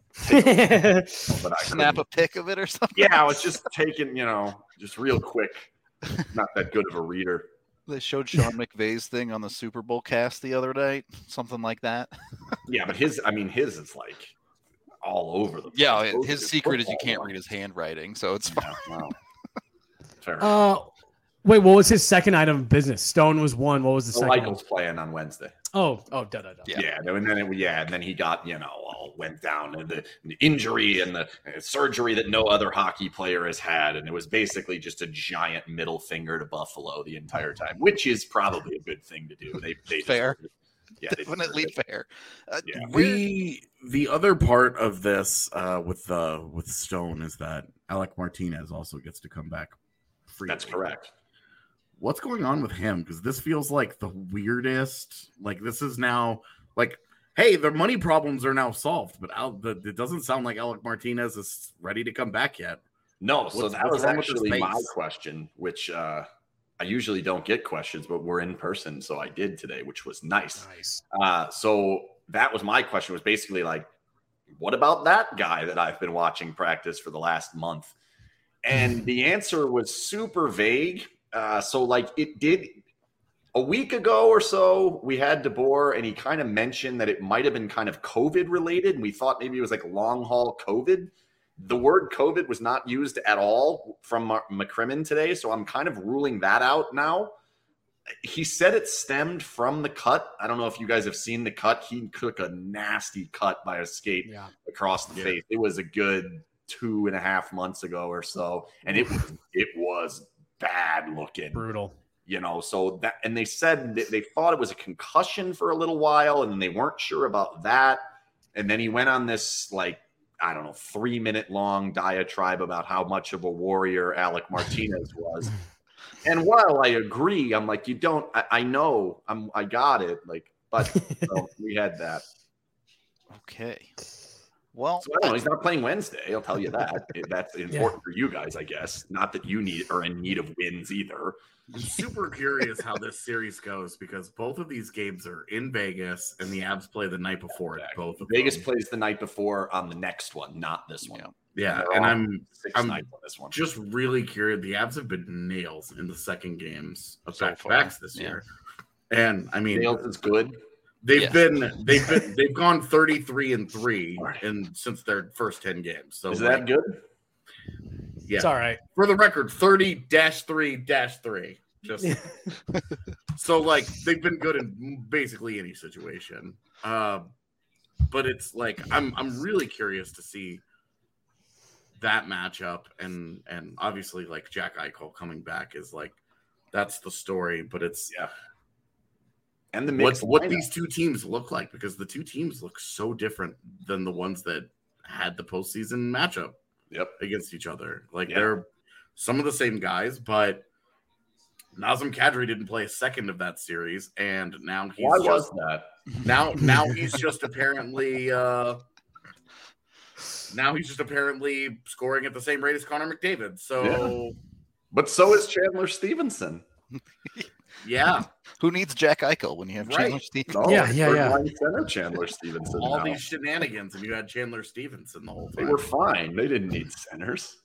A, but I snap a pic of it or something. Yeah, I was just taking, you know, just real quick. Not that good of a reader. They showed Sean McVay's thing on the Super Bowl cast the other night, something like that. Yeah, but his, I mean, his is like all over the place. Yeah, Those his are secret is you football can't ones. read his handwriting, so it's Yeah, fine. wow. Fair Uh, wait, what was his second item of business? Stone was one. What was the So second Michael's playing on Wednesday. one? Oh, oh, da da da. Yeah. Yeah, no, and then it, yeah, and then he got, you know, all went down and the, the injury and the uh, surgery that no other hockey player has had, and it was basically just a giant middle finger to Buffalo the entire time, which is probably a good thing to do. They, they Fair. deserve it. Yeah, they Definitely deserve it. fair. Uh, Yeah. where- The the other part of this uh, with uh, with Stone is that Alec Martinez also gets to come back free. That's correct. What's going on with him? Because this feels like the weirdest. Like this is now like hey, their money problems are now solved, but Al, the, it doesn't sound like Alec Martinez is ready to come back yet. No, so What's- that what's was wrong with his actually my face? question, which uh, I usually don't get questions, but we're in person, so I did today, which was nice. Nice. Uh, so that was my question, was basically like, what about that guy that I've been watching practice for the last month? And the answer was super vague. Uh, so like it did a week ago or so, we had DeBoer and he kind of mentioned that it might have been kind of COVID related. And we thought maybe it was like long haul COVID. The word COVID was not used at all from McCrimmon today. So I'm kind of ruling that out now. He said it stemmed from the cut. I don't know if you guys have seen the cut. He took a nasty cut by a skate Yeah. across the Yeah. face. It was a good two and a half months ago or so. And it was, it was bad looking. Brutal. You know, so that, and they said that they thought it was a concussion for a little while and they weren't sure about that. And then he went on this, like, I don't know, three minute long diatribe about how much of a warrior Alec Martinez was. And while I agree, I'm like, you don't, I, I know, I'm, I got it. Like, but so we had that. Okay. Well, So I don't know. He's not playing Wednesday. I'll tell you that. That's important for you guys, I guess. Not that you need are in need of wins either. I'm super curious how this series goes because both of these games are in Vegas and the Avs play the night before. Exactly. Both of Vegas them. plays the night before on the next one, not this one. Yeah. Yeah, They're and all I'm six I'm nights on this one. just really curious. The Avs have been nails in the second games of So back to far, backs this yeah. year, and I mean Nails is good. they've Yes. been they've been they've gone thirty-three and three Right. in since their first ten games. So Is like, that good? yeah. It's all right. For the record, thirty dash three dash three. Just so like they've been good in basically any situation. Uh, but it's like I'm I'm really curious to see that matchup and and obviously like Jack Eichel coming back is like that's the story, but it's Yeah. And the what mix what these two teams look like because the two teams look so different than the ones that had the postseason matchup Yep. against each other. Like Yeah. they're some of the same guys, but Nazem Kadri didn't play a second of that series, and now he's Why just was that? now now he's just apparently uh now he's just apparently scoring at the same rate as Connor McDavid. So But so is Chandler Stevenson. yeah, who needs Jack Eichel when you have Right. Chandler Stevens? No, Yeah, yeah, third yeah. line center Chandler Stevenson. all now. these shenanigans, and you had Chandler Stevenson the whole They time. were fine. They didn't need centers.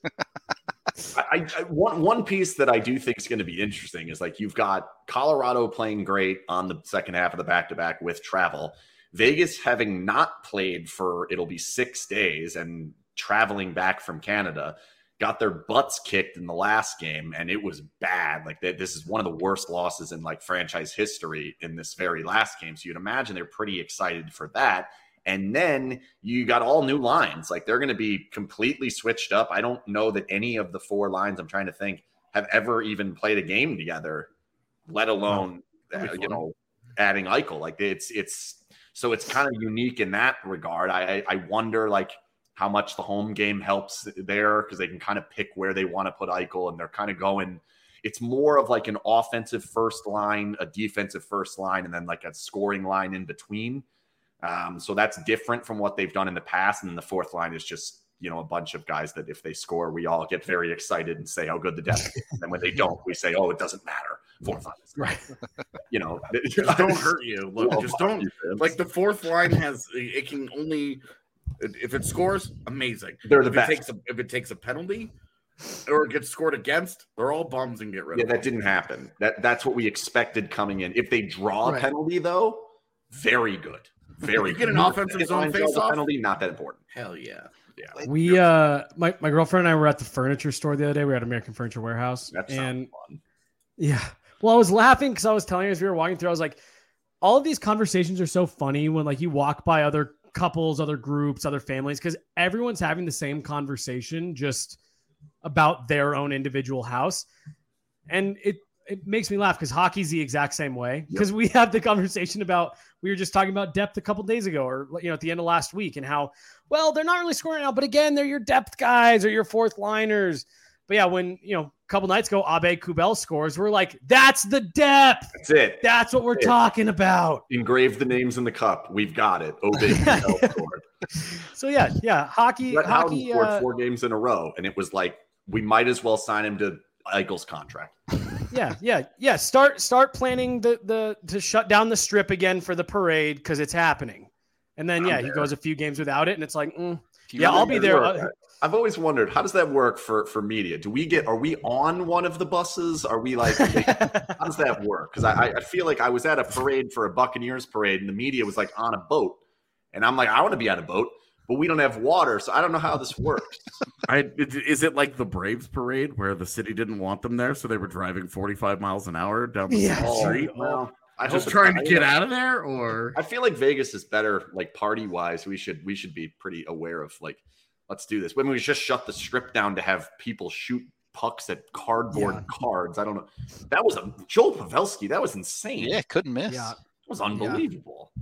I, I one one piece that I do think is going to be interesting is like you've got Colorado playing great on the second half of the back to back with travel. Vegas having not played for it'll be six days and traveling back from Canada, got their butts kicked in the last game, and it was bad. Like they, this is one of the worst losses in like franchise history in this very last game. So you'd imagine they're pretty excited for that. And then you got all new lines. Like they're going to be completely switched up. I don't know that any of the four lines I'm trying to think have ever even played a game together, let alone, That'd be uh, you fun. know, adding Eichel. Like it's, it's, so it's kind of unique in that regard. I, I wonder like how much the home game helps there because they can kind of pick where they want to put Eichel and they're kind of going, it's more of like an offensive first line, a defensive first line, and then like a scoring line in between. Um, so that's different from what they've done in the past. And then the fourth line is just, you know, a bunch of guys that if they score, we all get very excited and say how good the depth is. And then when they don't, we say, oh, it doesn't matter. Fourth line is Right. you know, Just don't hurt you. Look, Oh, just don't defense. like the fourth line has it can only if it scores, amazing. They're the if best. it takes a if it takes a penalty or it gets scored against, they're all bums and get rid Yeah, of that them. didn't happen. That that's what we expected coming in. If they draw a Right. penalty, though, very good. Very You get good. an offensive If zone line draws a face-off? penalty, not that important. Hell yeah. Yeah, We uh my, my girlfriend and I were at the furniture store the other day. We were at American Furniture Warehouse. that sounds and fun. yeah. Well, I was laughing because I was telling her as we were walking through, I was like, all of these conversations are so funny when like you walk by other couples, other groups, other families, because everyone's having the same conversation just about their own individual house. And it it makes me laugh because hockey's the exact same way. Because we have the conversation about, we were just talking about depth a couple days ago, or you know, at the end of last week, and how, well, they're not really scoring now, but again, they're your depth guys or your fourth liners. but yeah, when, you know, a couple nights ago, Abe Kubel scores, we're like, that's the depth. That's it. That's what we're That's talking about. Engrave the names in the cup. We've got it. Abe Kubel scored. So yeah, yeah, hockey. Brett Howden hockey scored uh, four games in a row, and it was like we might as well sign him to Eichel's contract. Yeah, yeah, yeah. Start start planning the the to shut down the strip again for the parade because it's happening. And then yeah, I'm he there. goes a few games without it, and it's like, mm, You yeah, really I'll be there. Work. Uh, I've always wondered, how does that work for for media? Do we get? Are we on one of the buses? Are we like? How does that work? Because I I feel like I was at a parade for a Buccaneers parade, and the media was like on a boat, and I'm like, I want to be on a boat. But we don't have water, so I don't know how this works. I is it like the Braves parade where the city didn't want them there, so they were driving forty-five miles an hour down the Yeah. street? Oh, well, I just hope trying to it's- get out of there, or I feel like Vegas is better, like party wise. We should we should be pretty aware of like, let's do this. When we just shut the strip down to have people shoot pucks at cardboard Yeah. cards. I don't know. That was a Joel Pavelski. That was insane. Yeah, couldn't miss. Yeah. It was unbelievable.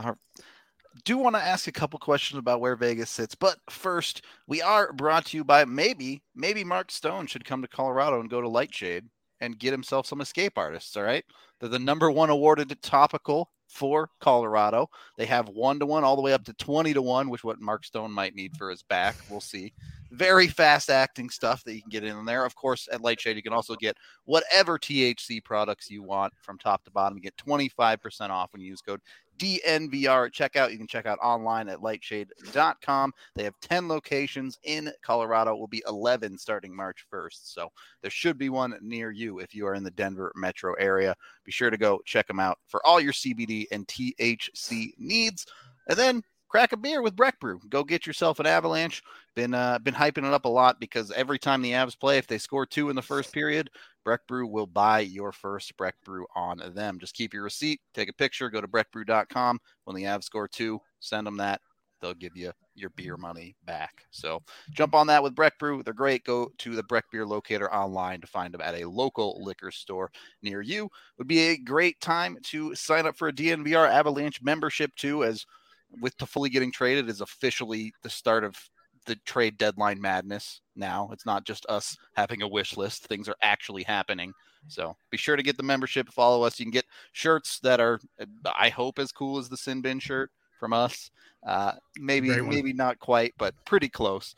Do want to ask a couple questions about where Vegas sits, but first, we are brought to you by maybe, maybe Mark Stone should come to Colorado and go to Lightshade and get himself some escape artists. All right, they're the number one awarded topical for Colorado. They have one to one all the way up to twenty to one, which what Mark Stone might need for his back. We'll see. Very fast acting stuff that you can get in there. Of course, at Lightshade, you can also get whatever T H C products you want from top to bottom. You get twenty-five percent off when you use code D N V R at checkout. You can check out online at lightshade dot com. They have ten locations in Colorado. It will be eleven starting March first. So there should be one near you if you are in the Denver metro area. Be sure to go check them out for all your C B D and T H C needs. And then crack a beer with Breck Brew. Go get yourself an Avalanche. Been uh, been hyping it up a lot because every time the Avs play, if they score two in the first period, Breck Brew will buy your first Breck Brew on them. Just keep your receipt, take a picture, go to breck brew dot com. When the Avs score two, send them that. They'll give you your beer money back. So jump on that with Breck Brew. They're great. Go to the Breck Beer Locator online to find them at a local liquor store near you. Would be a great time to sign up for a D N V R Avalanche membership too, as with Toffoli getting traded is officially the start of the trade deadline madness. Now it's not just us having a wish list. Things are actually happening. So be sure to get the membership, follow us. You can get shirts that are, I hope, as cool as the Sin Bin shirt from us. Uh, maybe, maybe not quite, but pretty close.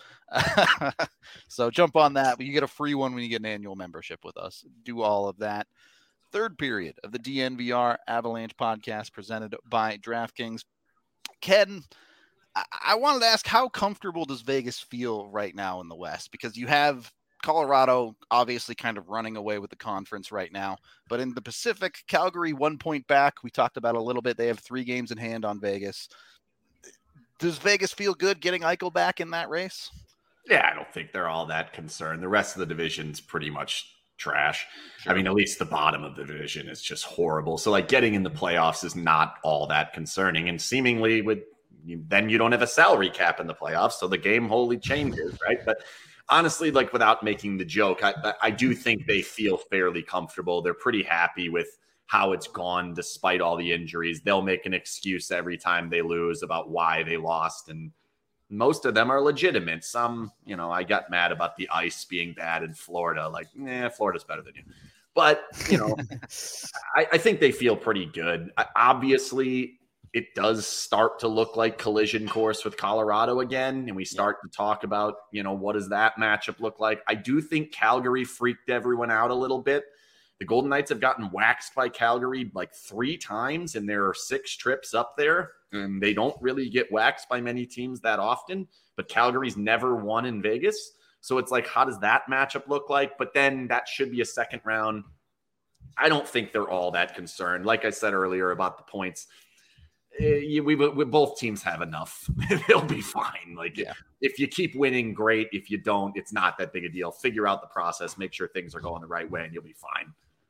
So jump on that. You get a free one when you get an annual membership with us. Do all of that. Third period of the D N V R Avalanche podcast presented by DraftKings. Ken, I wanted to ask, how comfortable does Vegas feel right now in the West? Because you have Colorado obviously kind of running away with the conference right now. But in the Pacific, Calgary one point back. We talked about a little bit. They have three games in hand on Vegas. Does Vegas feel good getting Eichel back in that race? Yeah, I don't think they're all that concerned. The rest of the division's pretty much trash. Sure. I mean, at least the bottom of the division is just horrible. So like getting in the playoffs is not all that concerning. And seemingly with You, then you don't have a salary cap in the playoffs, so the game wholly changes, right? But honestly, like without making the joke, I, I do think they feel fairly comfortable. They're pretty happy with how it's gone despite all the injuries. They'll make an excuse every time they lose about why they lost, and most of them are legitimate. Some, you know, I got mad about the ice being bad in Florida. Like, nah, Florida's better than you. But, you know, I, I think they feel pretty good. I, obviously, it does start to look like collision course with Colorado again. And we start to talk about, you know, what does that matchup look like? I do think Calgary freaked everyone out a little bit. The Golden Knights have gotten waxed by Calgary like three times, and there are six trips up there. And they don't really get waxed by many teams that often. But Calgary's never won in Vegas. So it's like, how does that matchup look like? But then that should be a second round. I don't think they're all that concerned. Like I said earlier about the points, We, we, we both teams have enough. They'll be fine. Like yeah. if you keep winning, great. If you don't, it's not that big a deal. Figure out the process, make sure things are going the right way, and you'll be fine.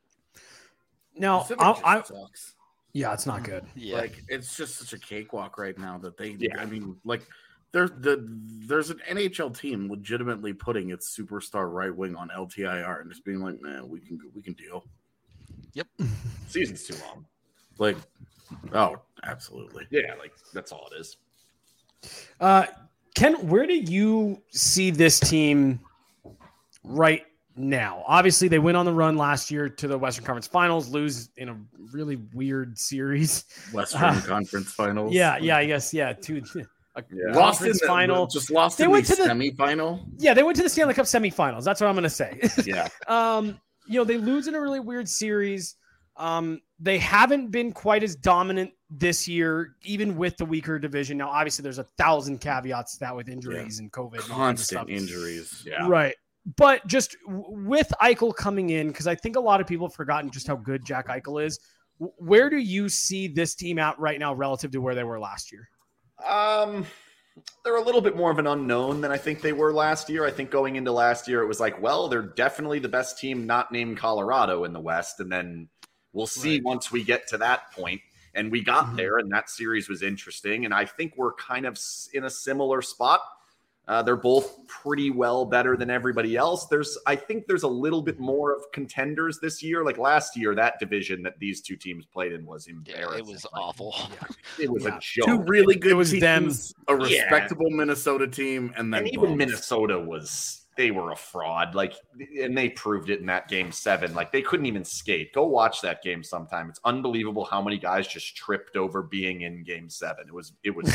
Now, I, I, yeah, it's not good. Yeah. Like it's just such a cakewalk right now that they. Yeah. I mean, like there's the there's an N H L team legitimately putting its superstar right wing on L T I R and just being like, man, we can we can deal. Yep, season's too long. Like. Oh, absolutely. Yeah, like that's all it is. Uh, Ken, where do you see this team right now. Obviously, they went on the run last year to the Western Conference Finals, lose in a really weird series. Western Uh, Conference Finals. Yeah, yeah, I guess, yeah. Two, a Yeah. Lost in conference the final. Just lost They in went the to the- semifinal. Yeah, they went to the Stanley Cup semifinals. That's what I'm going to say. Yeah. um, you know, they lose in a really weird series. Um, they haven't been quite as dominant this year, even with the weaker division. Now, obviously, there's a thousand caveats to that with injuries and COVID. and all kinds of Constant stuff. injuries. Yeah. Right. But just w- with Eichel coming in, because I think a lot of people have forgotten just how good Jack Eichel is. w- Where do you see this team at right now relative to where they were last year? Um, they're a little bit more of an unknown than I think they were last year. I think going into last year, it was like, well, they're definitely the best team not named Colorado in the West. And then we'll see Right. once we get to that point. And we got Mhm. there, and that series was interesting. And I think we're kind of s- in a similar spot. Uh, they're both pretty well better than everybody else. There's, I think there's a little bit more of contenders this year. Like last year, that division that these two teams played in was Yeah, embarrassing. it was Like, awful. It was Yeah. a joke. Two really good It was teams, them. a Yeah. respectable Minnesota team, and then And even both. Minnesota was, they were a fraud. Like, and they proved it in that game seven. Like, they couldn't even skate. Go watch that game sometime. It's unbelievable how many guys just tripped over being in game seven. It was, it was,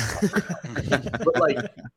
but like,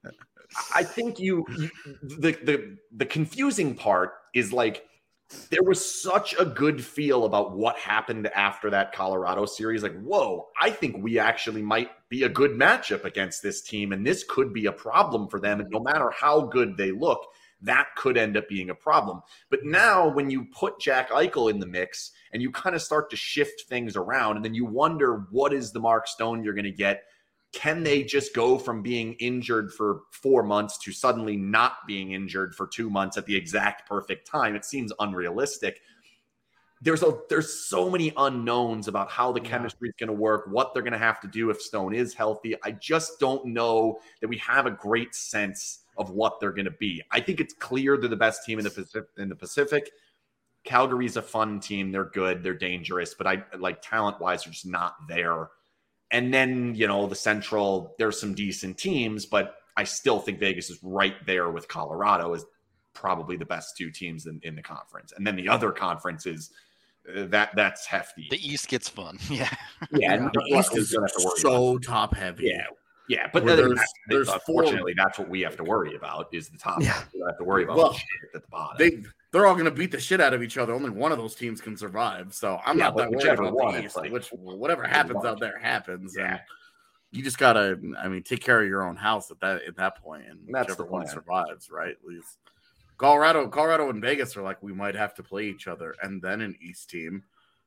I think you, you the, the, the confusing part is like, there was such a good feel about what happened after that Colorado series. Like, whoa, I think we actually might be a good matchup against this team, and this could be a problem for them. And no matter how good they look, that could end up being a problem. But now when you put Jack Eichel in the mix and you kind of start to shift things around, and then you wonder, what is the Mark Stone you're going to get? Can they just go from being injured for four months to suddenly not being injured for two months at the exact perfect time? It seems unrealistic. There's a there's so many unknowns about how the Yeah. chemistry is going to work, what they're going to have to do if Stone is healthy. I just don't know that we have a great sense of what they're going to be. I think it's clear they're the best team in the Pacific. In the Pacific. Calgary's a fun team. They're good. They're dangerous, but I like talent-wise, they're just not there. And then, you know, the Central, there's some decent teams, but I still think Vegas is right there with Colorado as probably the best two teams in, in the conference. And then the other conference is uh, that that's hefty. The East gets fun. Yeah. yeah, and The the East East is don't have to worry so about top heavy. Yeah. Yeah, but Where then there's- there's, there's four- unfortunately, that's what we have to worry about is the top. Yeah. We don't have to worry about Well, the shit at the bottom. They they're all going to beat the shit out of each other. Only one of those teams can survive. So I'm Yeah, not but that worried whichever about one, the it's East. like- Which whatever happens out there happens. Yeah. And you just gotta, I mean, take care of your own house at that at that point, and That's whichever the one plan. survives, right? At least Colorado, Colorado, and Vegas are like, we might have to play each other, and then an East team.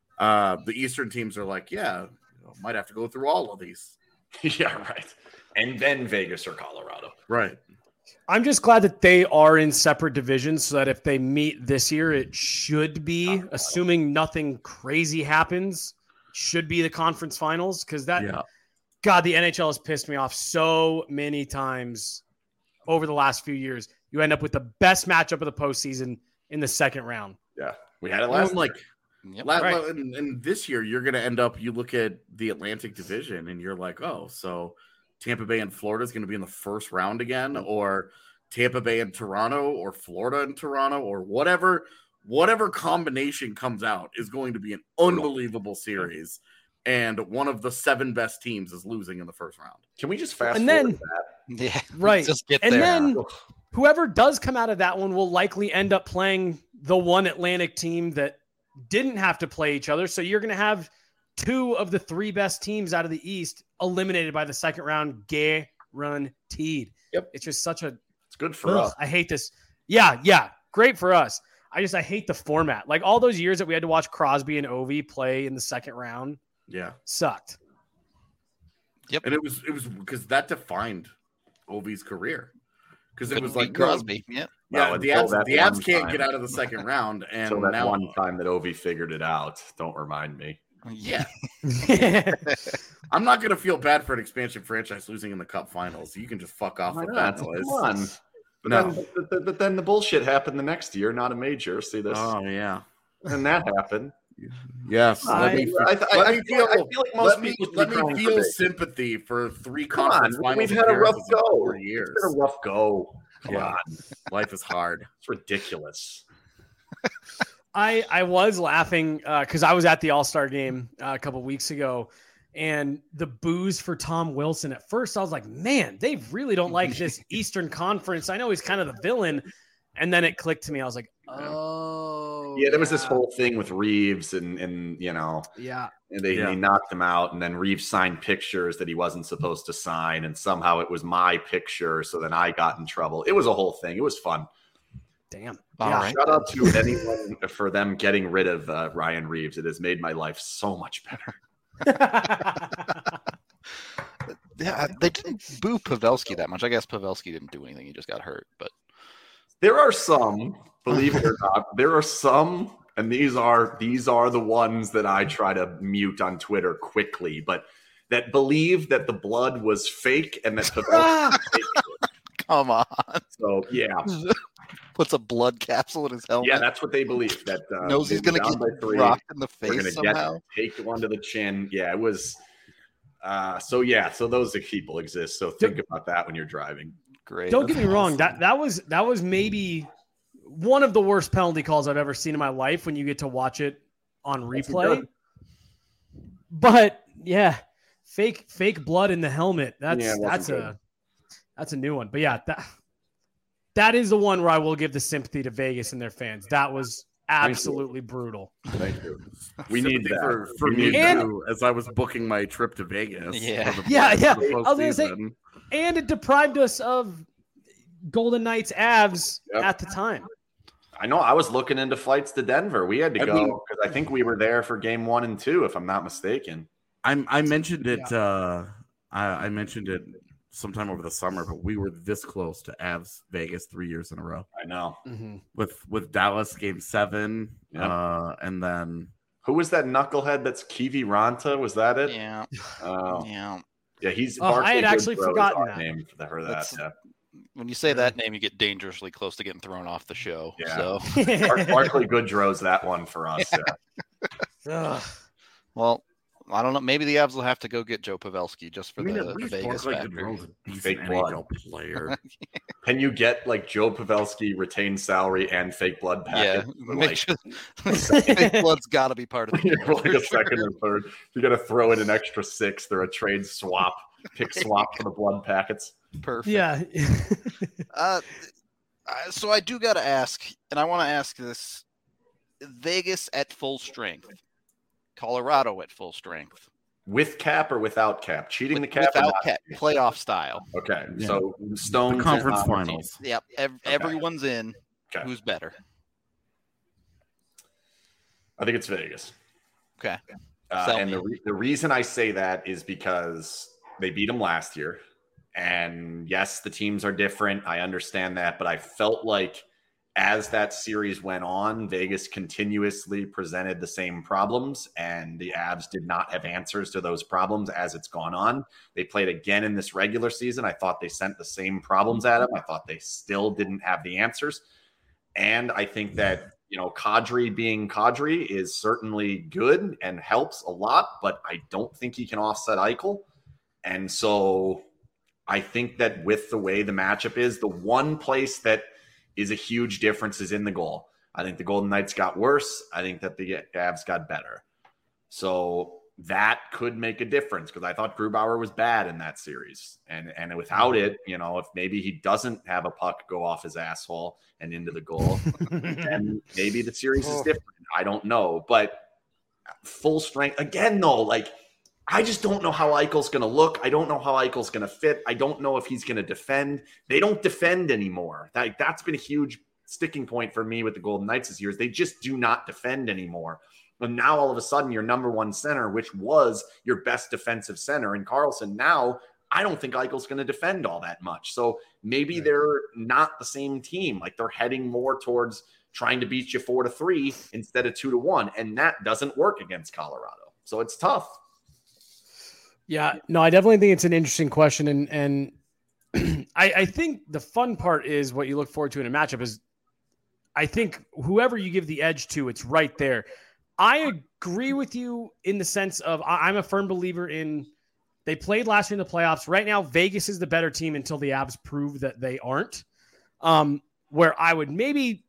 Uh, the Eastern teams are like, yeah, you know, might have to go through all of these, yeah, right. And then Vegas or Colorado. right? I'm just glad that they are in separate divisions so that if they meet this year, it should be, assuming nothing crazy happens, should be the conference finals. Because that, Yeah, God, the N H L has pissed me off so many times over the last few years. You end up with the best matchup of the postseason in the second round. Yeah, we had it Well, last. like. Yep. La- Right. la- and, and this year, you're going to end up, you look at the Atlantic Division and you're like, oh, so Tampa Bay and Florida is going to be in the first round again, or Tampa Bay and Toronto, or Florida and Toronto, or whatever, whatever combination comes out is going to be an unbelievable series. And one of the seven best teams is losing in the first round. Can we just fast And forward then- to that? Yeah. Right. Just get And there. then whoever does come out of that one will likely end up playing the one Atlantic team that didn't have to play each other. So you're going to have two of the three best teams out of the East eliminated by the second round, guaranteed. Yep. It's just such a, It's good for ugh, us. I hate this. Yeah. Yeah. Great for us. I just, I hate the format. Like all those years that we had to watch Crosby and Ovi play in the second round Yeah. sucked. And it was, it was because that defined Ovi's career. Because it Couldn't was like, beat no, Crosby. Yep. yeah, Well, the until abs, that the abs one can't time. get out of the second round. And Until that now, one time that Ovi figured it out. Don't remind me. Yeah. I'm not going to feel bad for an expansion franchise losing in the Cup Finals. You can just fuck off Why with not? that Come noise. on. But, No. then, but, but- but then the bullshit happened the next year, not a major. See this? Oh yeah. and that happened. Yes. I- let me, I, th- let I, me I feel, feel. I feel like most let me, people should let be me crying for feel Vegas. sympathy for three Come conference on, finals. we've had a rough appearances in go. Four It's years. been a rough go. Come Yeah. on, Life is hard. it's ridiculous. I I was laughing because uh, I was at the All-Star game uh, a couple weeks ago, and the boos for Tom Wilson. At first, I was like, man, they really don't like this Eastern Conference. I know he's kind of the villain. And then it clicked to me. I was like, oh. Yeah, there was this whole thing with Reeves and, and you know, yeah, and they, Yeah. they knocked him out. And then Reeves signed pictures that he wasn't supposed to sign. And somehow it was my picture. So then I got in trouble. It was a whole thing. It was fun. Damn. All yeah. right. Shout out to anyone for them getting rid of uh, Ryan Reeves. It has made my life so much better. Yeah, they didn't boo Pavelski that much. I guess Pavelski didn't do anything. He just got hurt. But There are some, believe it or not, there are some, and these are these are the ones that I try to mute on Twitter quickly, but that believe that the blood was fake and that Pavelski was fake. come on. So yeah, Puts a blood capsule in his helmet. yeah, that's what they believe. That uh, Knows he's they were going to down get by three. rocked in the We're face gonna somehow. get take one to the chin. Yeah, it was. Uh, so yeah, so those people exist. So think about that when you're driving. Great. Don't get me That's wrong. awesome. That that was that was maybe one of the worst penalty calls I've ever seen in my life when you get to watch it on replay. But yeah, fake fake blood in the helmet. That's Yeah, it wasn't that's good. a that's a new one. But yeah, that that is the one where I will give the sympathy to Vegas and their fans. That was absolutely brutal. Thank you. We need Sympathy that. for, for We me need And- too, as I was booking my trip to Vegas. Yeah. for the- Yeah, yeah. for the I was gonna say- postseason. And it deprived us of Golden Knights Avs Yep. at the time. I know. I was looking into flights to Denver. We had to I go mean- because I think we were there for game one and two, if I'm not mistaken. I I mentioned it. Uh, I, I mentioned it sometime over the summer, but we were this close to Avs Vegas three years in a row I know. Mm-hmm. with with Dallas Game Seven, Yeah. uh, and then Who was that knucklehead? That's Kiwi Ranta. Was that it? Yeah. Oh, Yeah. yeah. He's. Oh, I had Barclay actually Goodrow is forgotten our that. name for, the, for that. That's- Yeah. When you say that name, you get dangerously close to getting thrown off the show. Yeah. So, Bar- Barclay Goodrow's that one for us. Yeah. Ugh. well, I don't know. Maybe the Avs will have to go get Joe Pavelski just for I mean, the, at the least Vegas Barclay factor. Goodrow's a decent Fake N blood. H L player. Can you get like Joe Pavelski retained salary and fake blood Yeah, package? for, make like, sure fake blood's got to be part of the deal. for like a for sure. second or third. You got to throw in an extra six. They're a trade swap, pick swap for the blood packets. Perfect. Yeah. Uh, uh, so I do got to ask, and I want to ask this: Vegas at full strength, Colorado at full strength, With cap or without cap? Cheating with, the cap? or without not? cap, playoff style. Okay, Yeah. so The Stones conference and Honor finals. Yep, ev- Okay. everyone's in. Okay. Who's better? I think it's Vegas. Okay. Uh, Sell and me. the, re- the reason I say that is because they beat them last year. And yes, the teams are different. I understand that. But I felt like as that series went on, Vegas continuously presented the same problems. And the Avs did not have answers to those problems as it's gone on. They played again in this regular season. I thought they sent the same problems at them. I thought they still didn't have the answers. And I think that, you know, Kadri being Kadri is certainly good and helps a lot, but I don't think he can offset Eichel. And so I think that with the way the matchup is, the one place that is a huge difference is in the goal. I think the Golden Knights got worse. I think that the Avs got better. So that could make a difference because I thought Grubauer was bad in that series. And and without it, you know, if maybe he doesn't have a puck go off his asshole and into the goal, then maybe the series is different. I don't know. But full strength, again, though, like, I just don't know how Eichel's going to look. I don't know how Eichel's going to fit. I don't know if he's going to defend. They don't defend anymore. That, that's been a huge sticking point for me with the Golden Knights this year. Is they just do not defend anymore. And now all of a sudden your number one center, which was your best defensive center in Karlsson, now I don't think Eichel's going to defend all that much. So maybe Right. they're not the same team. Like they're heading more towards trying to beat you four to three instead of two to one. And that doesn't work against Colorado. So it's tough. Yeah, no, I definitely think it's an interesting question. And, and I, I think the fun part is what you look forward to in a matchup is I think whoever you give the edge to, it's right there. I agree with you in the sense of I, I'm a firm believer in they played last year in the playoffs. Right now, Vegas is the better team until the Avs prove that they aren't. Um, where I would maybe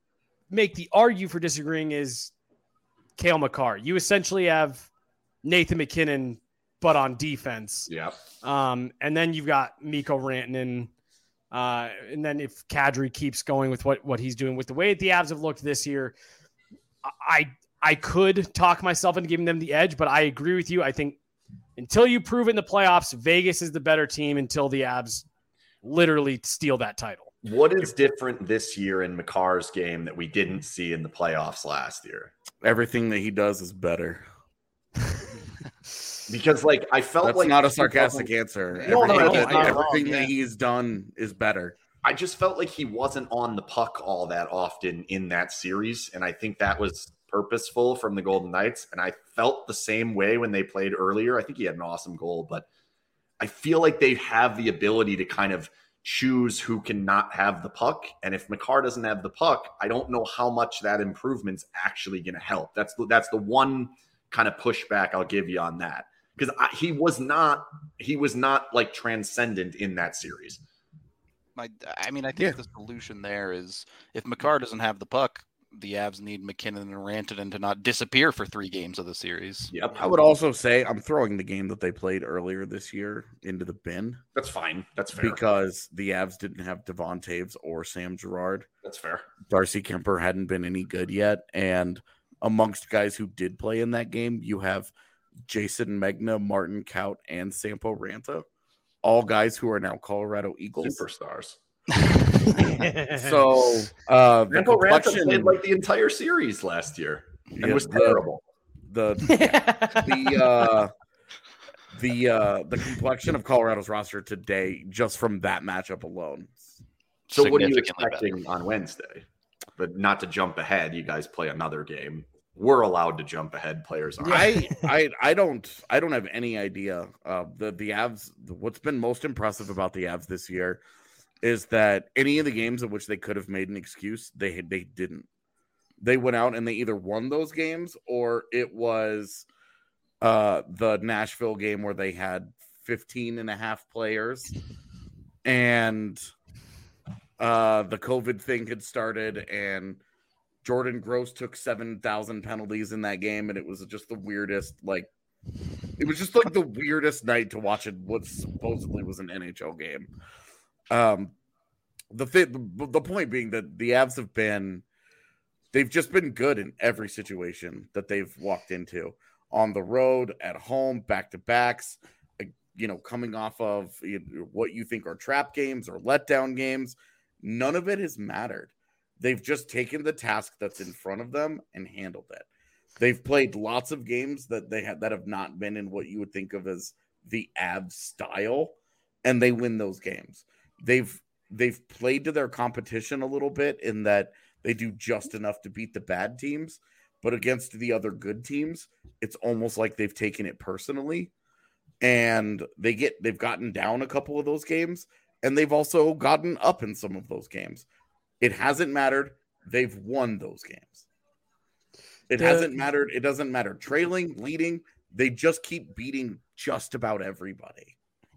make the argue for disagreeing is Cale Makar. You essentially have Nathan McKinnon, but on defense. Yeah. Um, and then you've got Mikko Rantanen. Uh, and then if Kadri keeps going with what, what he's doing with the way the Avs have looked this year, I I could talk myself into giving them the edge, but I agree with you. I think until you prove it in the playoffs, Vegas is the better team until the Avs literally steal that title. What is different this year in Makar's game that we didn't see in the playoffs last year? Everything that he does is better. Because, like, I felt That's like not a sarcastic answer. No, everything no, that, no, everything wrong, that yeah. he's done is better. I just felt like he wasn't on the puck all that often in that series, and I think that was purposeful from the Golden Knights. And I felt the same way when they played earlier. I think he had an awesome goal, but I feel like they have the ability to kind of choose who can not have the puck. And if Makar doesn't have the puck, I don't know how much that improvement's actually going to help. That's the, that's the one kind of pushback I'll give you on that. Because he was not, he was not like transcendent in that series. My, I mean, I think Yeah. the solution there is if Makar doesn't have the puck, the Avs need McKinnon and Rantanen to not disappear for three games of the series. Yep. I would also say I'm throwing the game that they played earlier this year into the bin That's fine. That's fair. because the Avs didn't have Devon Taves or Sam Girard. That's fair. Darcy Kemper hadn't been any good yet. And amongst guys who did play in that game, you have Jason Megna, Martin Kaut, and Sampo Ranta, all guys who are now Colorado Eagles. Superstars. So uh, the Sampo Ranta complexion, played like the entire series last year and yeah, was the- terrible. The the uh, the uh, the complexion of Colorado's roster today, just from that matchup alone. So what are you Significantly expecting on Wednesday? But not to jump ahead, you guys play another game. We're allowed to jump ahead. Players are. I, I I don't I don't have any idea. Uh, the the Avs. What's been most impressive about the Avs this year is that any of the games in which they could have made an excuse, they they didn't. They went out and they either won those games or it was uh, the Nashville game where they had fifteen and a half players and uh, the COVID thing had started and Jordan Gross took seven thousand penalties in that game. And it was just the weirdest, like, it was just like the weirdest night to watch it. What supposedly was an N H L game. Um, the, th- the point being that the Avs have been, they've just been good in every situation that they've walked into, on the road, at home, back to backs, you know, coming off of what you think are trap games or letdown games. None of it has mattered. They've just taken the task that's in front of them and handled it. They've played lots of games that they have that have not been in what you would think of as the Avs style, and they win those games. They've they've played to their competition a little bit in that they do just enough to beat the bad teams, but against the other good teams, it's almost like they've taken it personally, and they get they've gotten down a couple of those games, and they've also gotten up in some of those games. It hasn't mattered. They've won those games. It The- hasn't mattered. It doesn't matter. Trailing, leading, they just keep beating just about everybody.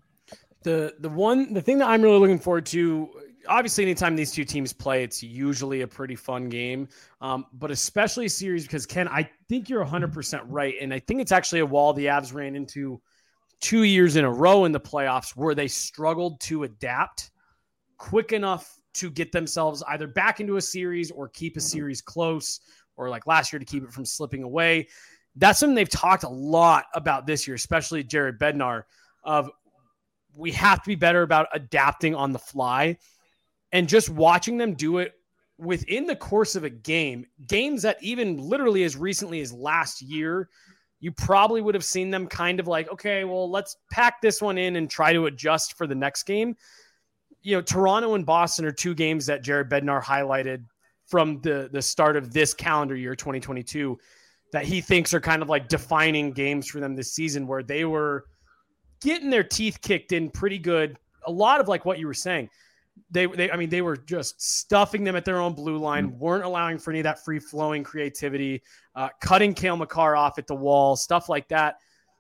The the one the thing that I'm really looking forward to, obviously, anytime these two teams play, it's usually a pretty fun game. Um, but especially a series because Ken, I think you're one hundred percent right, and I think it's actually a wall the Avs ran into two years in a row in the playoffs where they struggled to adapt quick enough to get themselves either back into a series or keep a series close, or like last year to keep it from slipping away. That's something they've talked a lot about this year, especially Jared Bednar, of we have to be better about adapting on the fly, and just watching them do it within the course of a game, games that even literally as recently as last year, you probably would have seen them kind of like, okay, well, let's pack this one in and try to adjust for the next game. You know, Toronto and Boston are two games that Jared Bednar highlighted from the, the start of this calendar year, twenty twenty-two, that he thinks are kind of like defining games for them this season, where they were getting their teeth kicked in pretty good. A lot of like what you were saying, they, they, I mean, they were just stuffing them at their own blue line, weren't allowing for any of that free flowing creativity, uh, cutting Cale Makar off at the wall, stuff like that.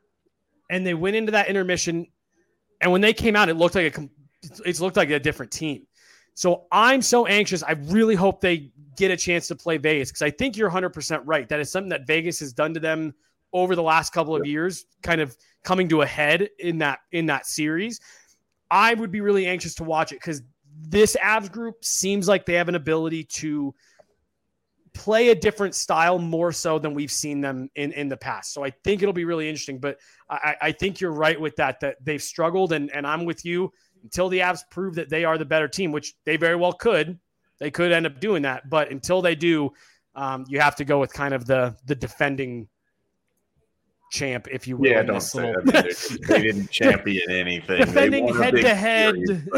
And they went into that intermission, and when they came out, it looked like a, it looked like a different team. So I'm so anxious. I really hope they get a chance to play Vegas, because I think you're one hundred percent right. That is something that Vegas has done to them over the last couple of years, kind of coming to a head in that in that series. I would be really anxious to watch it, because this Avs group seems like they have an ability to play a different style more so than we've seen them in, in the past. So I think it'll be really interesting, but I, I think you're right with that, that they've struggled, and, and I'm with you until the Avs prove that they are the better team, which they very well could. They could end up doing that, but until they do, um, you have to go with kind of the, the defending champ, if you will. Yeah, don't say little... that. They, they didn't champion anything. Defending head to head.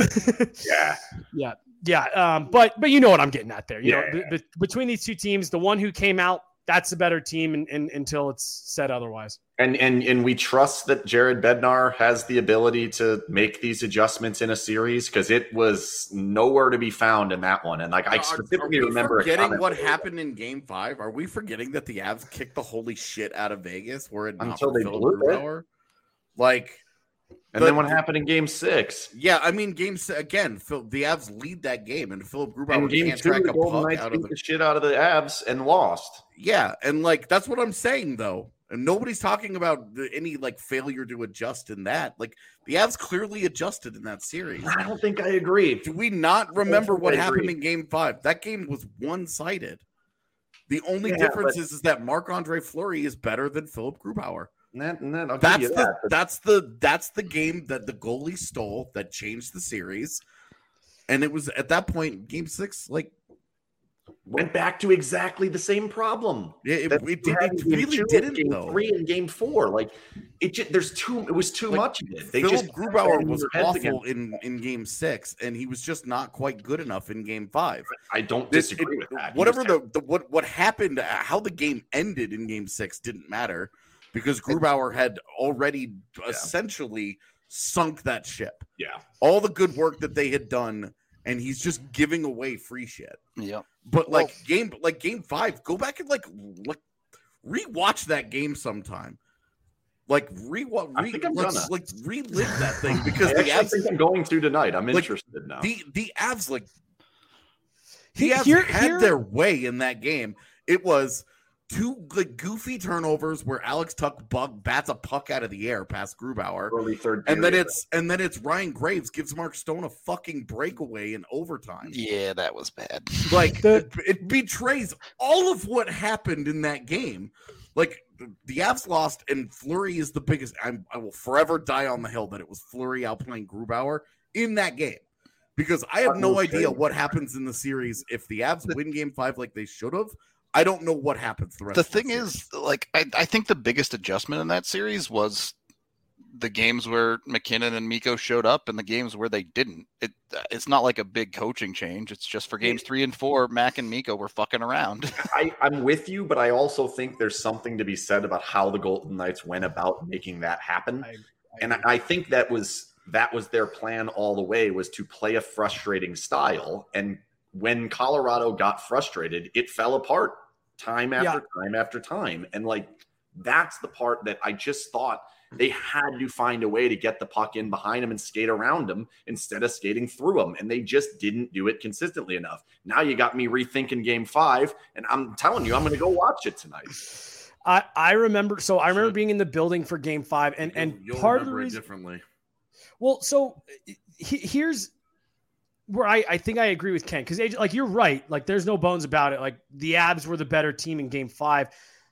Yeah. Yeah. Yeah, um, but but you know what I'm getting at there. You yeah. know, b- b- between these two teams, the one who came out, that's the better team, in, in, until it's said otherwise. And and and we trust that Jared Bednar has the ability to make these adjustments in a series, because it was nowhere to be found in that one. And like I specifically are, are remember forgetting what happened in Game Five. Are we forgetting that the Avs kicked the holy shit out of Vegas? Were it not until they Philip blew Grubauer? it? Like. And but, then what happened in Game Six? Yeah, I mean, Game Six again. Phil, the Avs lead that game, and Philip Grubauer and Game can't Two, track the a Golden puck Knights out beat of the... the shit out of the Avs and lost. Yeah, and like that's what I'm saying though, and nobody's talking about the, any like failure to adjust in that. Like the Avs clearly adjusted in that series. I don't think I agree. Do we not remember what I happened agree. in Game Five? That game was one sided. The only Yeah, difference but... is, is that Marc-Andre Fleury is better than Philip Grubauer. And that, and that, I'll That's give you the that, but... that's the that's the game that the goalie stole that changed the series, and it was at that point Game Six like went back to exactly the same problem. Yeah, it, that it, we did, had it in game really two, didn't game though. Three and Game Four, like it. Just, there's too. It was too Like, much of it. They Philip just Grubauer was their heads awful again. in, in Game Six, and he was just not quite good enough in Game Five. I don't This- disagree it- with that. He Whatever was the, the what what happened, uh, how the game ended in Game Six didn't matter because Grubauer had already essentially sunk that ship. Yeah. All the good work that they had done, and he's just giving away free shit. Yep. But like Well- game, like Game Five, go back and like like rewatch that game sometime. Like re-watch, I re, think I'm let's, gonna. like relive that thing because I the actually Avs, think I'm going to tonight. I'm Like, interested now. the the Avs, like the He- Avs here- had here- their way in that game. It was two like goofy turnovers where Alex Tuck bug bats a puck out of the air past Grubauer. Early third, And then period. it's and then it's Ryan Graves gives Mark Stone a fucking breakaway in overtime. Yeah, that was bad. Like The- it, it betrays all of what happened in that game. Like the Avs lost, and Fleury is the biggest. I'm, I will forever die on the hill that it was Fleury outplaying Grubauer in that game, because I have no idea what happens in the series if the Avs win Game Five like they should have. I don't know what happens the rest. The of thing the is, like, I, I think the biggest adjustment in that series was the games where McKinnon and Mikko showed up and the games where they didn't. It It's not like a big coaching change. It's just for games three and four, Mac and Mikko were fucking around. I, I'm with you, but I also think there's something to be said about how the Golden Knights went about making that happen. I- I and I, I think that was that was their plan all the way, was to play a frustrating style. And when Colorado got frustrated, it fell apart time after time after time. And like that's the part that I just thought they had to find a way to get the puck in behind them and skate around them instead of skating through them. And they just didn't do it consistently enough. Now you got me rethinking Game Five, and I'm telling you, I'm going to go watch it tonight. I, I remember. So I remember being in the building for Game Five, and and You'll part of the remember it reason. differently. Well, so he, here's where I, I think I agree with Ken, because like you're right. Like there's no bones about it. Like the Avs were the better team in Game Five.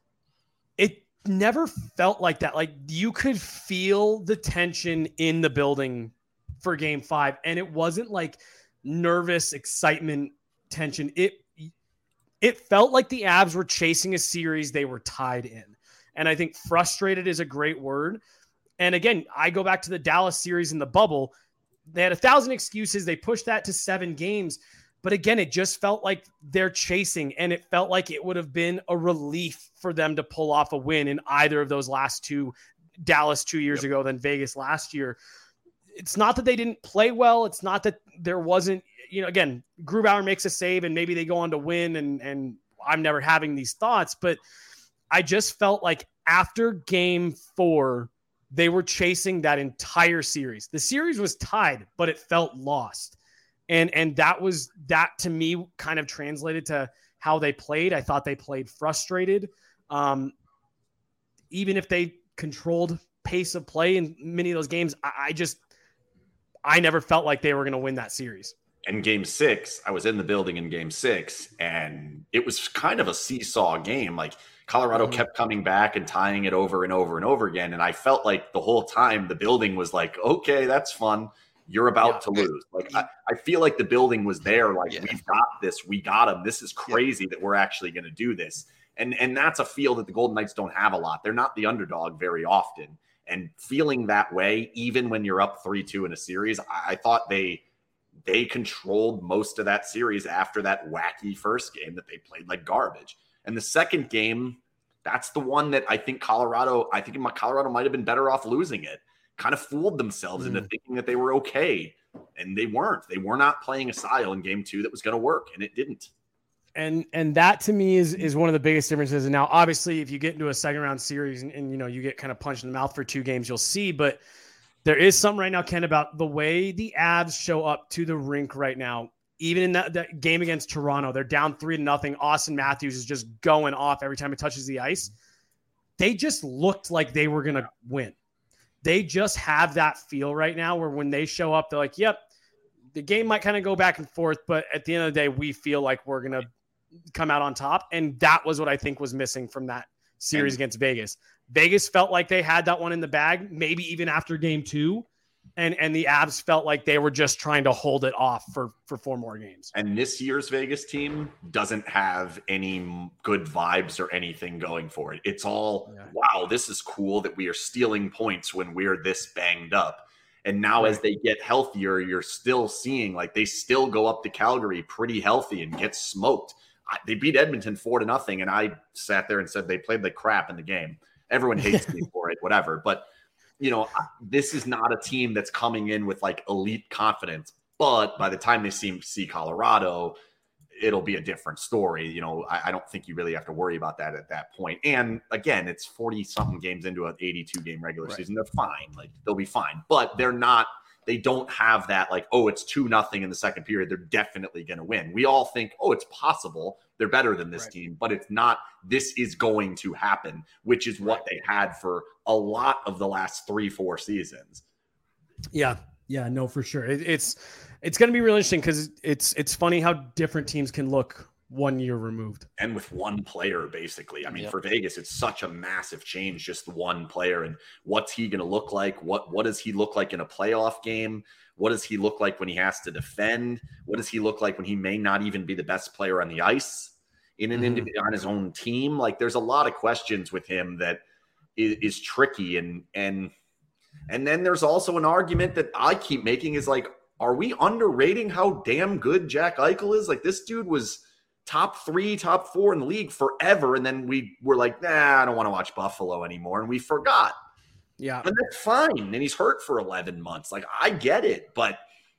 It never felt like that. Like you could feel the tension in the building for Game Five, and it wasn't like nervous excitement tension. It it felt like the Avs were chasing a series they were tied in, and I think frustrated is a great word. And again, I go back to the Dallas series in the bubble. They had a thousand excuses. They pushed that to seven games. But again, it just felt like they're chasing, and it felt like it would have been a relief for them to pull off a win in either of those last two, Dallas two years yep. ago, then Vegas last year. It's not that they didn't play well. It's not that there wasn't, you know, again, Grubauer makes a save and maybe they go on to win, and, and I'm never having these thoughts, but I just felt like after game four, they were chasing that entire series. The series was tied, but it felt lost. And, and that was, that to me kind of translated to how they played. I thought they played frustrated. Um, even if they controlled pace of play in many of those games, I, I just, I never felt like they were going to win that series. And game six, I was in the building in game six, and it was kind of a seesaw game. Like Colorado mm-hmm. kept coming back and tying it over and over and over again. And I felt like the whole time the building was like, okay, that's fun. You're about yeah. to lose. Like I, I feel like the building was there. Like yeah. we've got this. We got them. This is crazy yeah. that we're actually going to do this. And and that's a feel that the Golden Knights don't have a lot. They're not the underdog very often. And feeling that way, even when you're up three two in a series, I, I thought they they controlled most of that series after that wacky first game that they played like garbage. And the second game, that's the one that I think Colorado, I think Colorado might have been better off losing it. Kind of fooled themselves mm. into thinking that they were okay. And they weren't. They were not playing a style in game two that was going to work, and it didn't. And and that to me is is one of the biggest differences. And now, obviously, if you get into a second round series and, and you know you get kind of punched in the mouth for two games, you'll see. But there is something right now, Ken, about the way the Avs show up to the rink right now. Even in that, that game against Toronto, they're down three to nothing. Austin Matthews is just going off every time it touches the ice. They just looked like they were gonna win. They just have that feel right now where when they show up, they're like, "Yep, the game might kind of go back and forth, but at the end of the day, we feel like we're gonna come out on top." And that was what I think was missing from that series against Vegas. Vegas felt like they had that one in the bag, maybe even after game two. And and the Avs felt like they were just trying to hold it off for, for four more games. And this year's Vegas team doesn't have any good vibes or anything going for it. It's all, yeah. wow, this is cool that we are stealing points when we're this banged up. And now right. as they get healthier, you're still seeing like they still go up to Calgary pretty healthy and get smoked. They beat Edmonton four to nothing, and I sat there and said they played like crap in the game. Everyone hates me for it, whatever. But, you know, this is not a team that's coming in with like elite confidence. But by the time they see, see Colorado, it'll be a different story. You know, I, I don't think you really have to worry about that at that point. And again, it's forty-something games into an eighty-two game regular right. season. They're fine. Like, they'll be fine. But they're not – they don't have that like, oh, it's two nothing in the second period. They're definitely going to win. We all think, oh, it's possible. They're better than this right. team, but it's not. This is going to happen, which is what right. they had for a lot of the last three, four seasons. Yeah. Yeah, no, for sure. It, it's it's going to be really interesting because it's it's funny how different teams can look one year removed. And with one player, basically. I mean, yep. for Vegas, it's such a massive change, just one player. And what's he going to look like? What What does he look like in a playoff game? What does he look like when he has to defend? What does he look like when he may not even be the best player on the ice in an mm-hmm. individual on his own team? Like, there's a lot of questions with him that is, is tricky. And, and, and then there's also an argument that I keep making is like, are we underrating how damn good Jack Eichel is? Like, this dude was top three, top four in the league forever. And then we were like, nah, I don't want to watch Buffalo anymore. And we forgot. Yeah. And that's fine. And he's hurt for eleven months. Like, I get it, but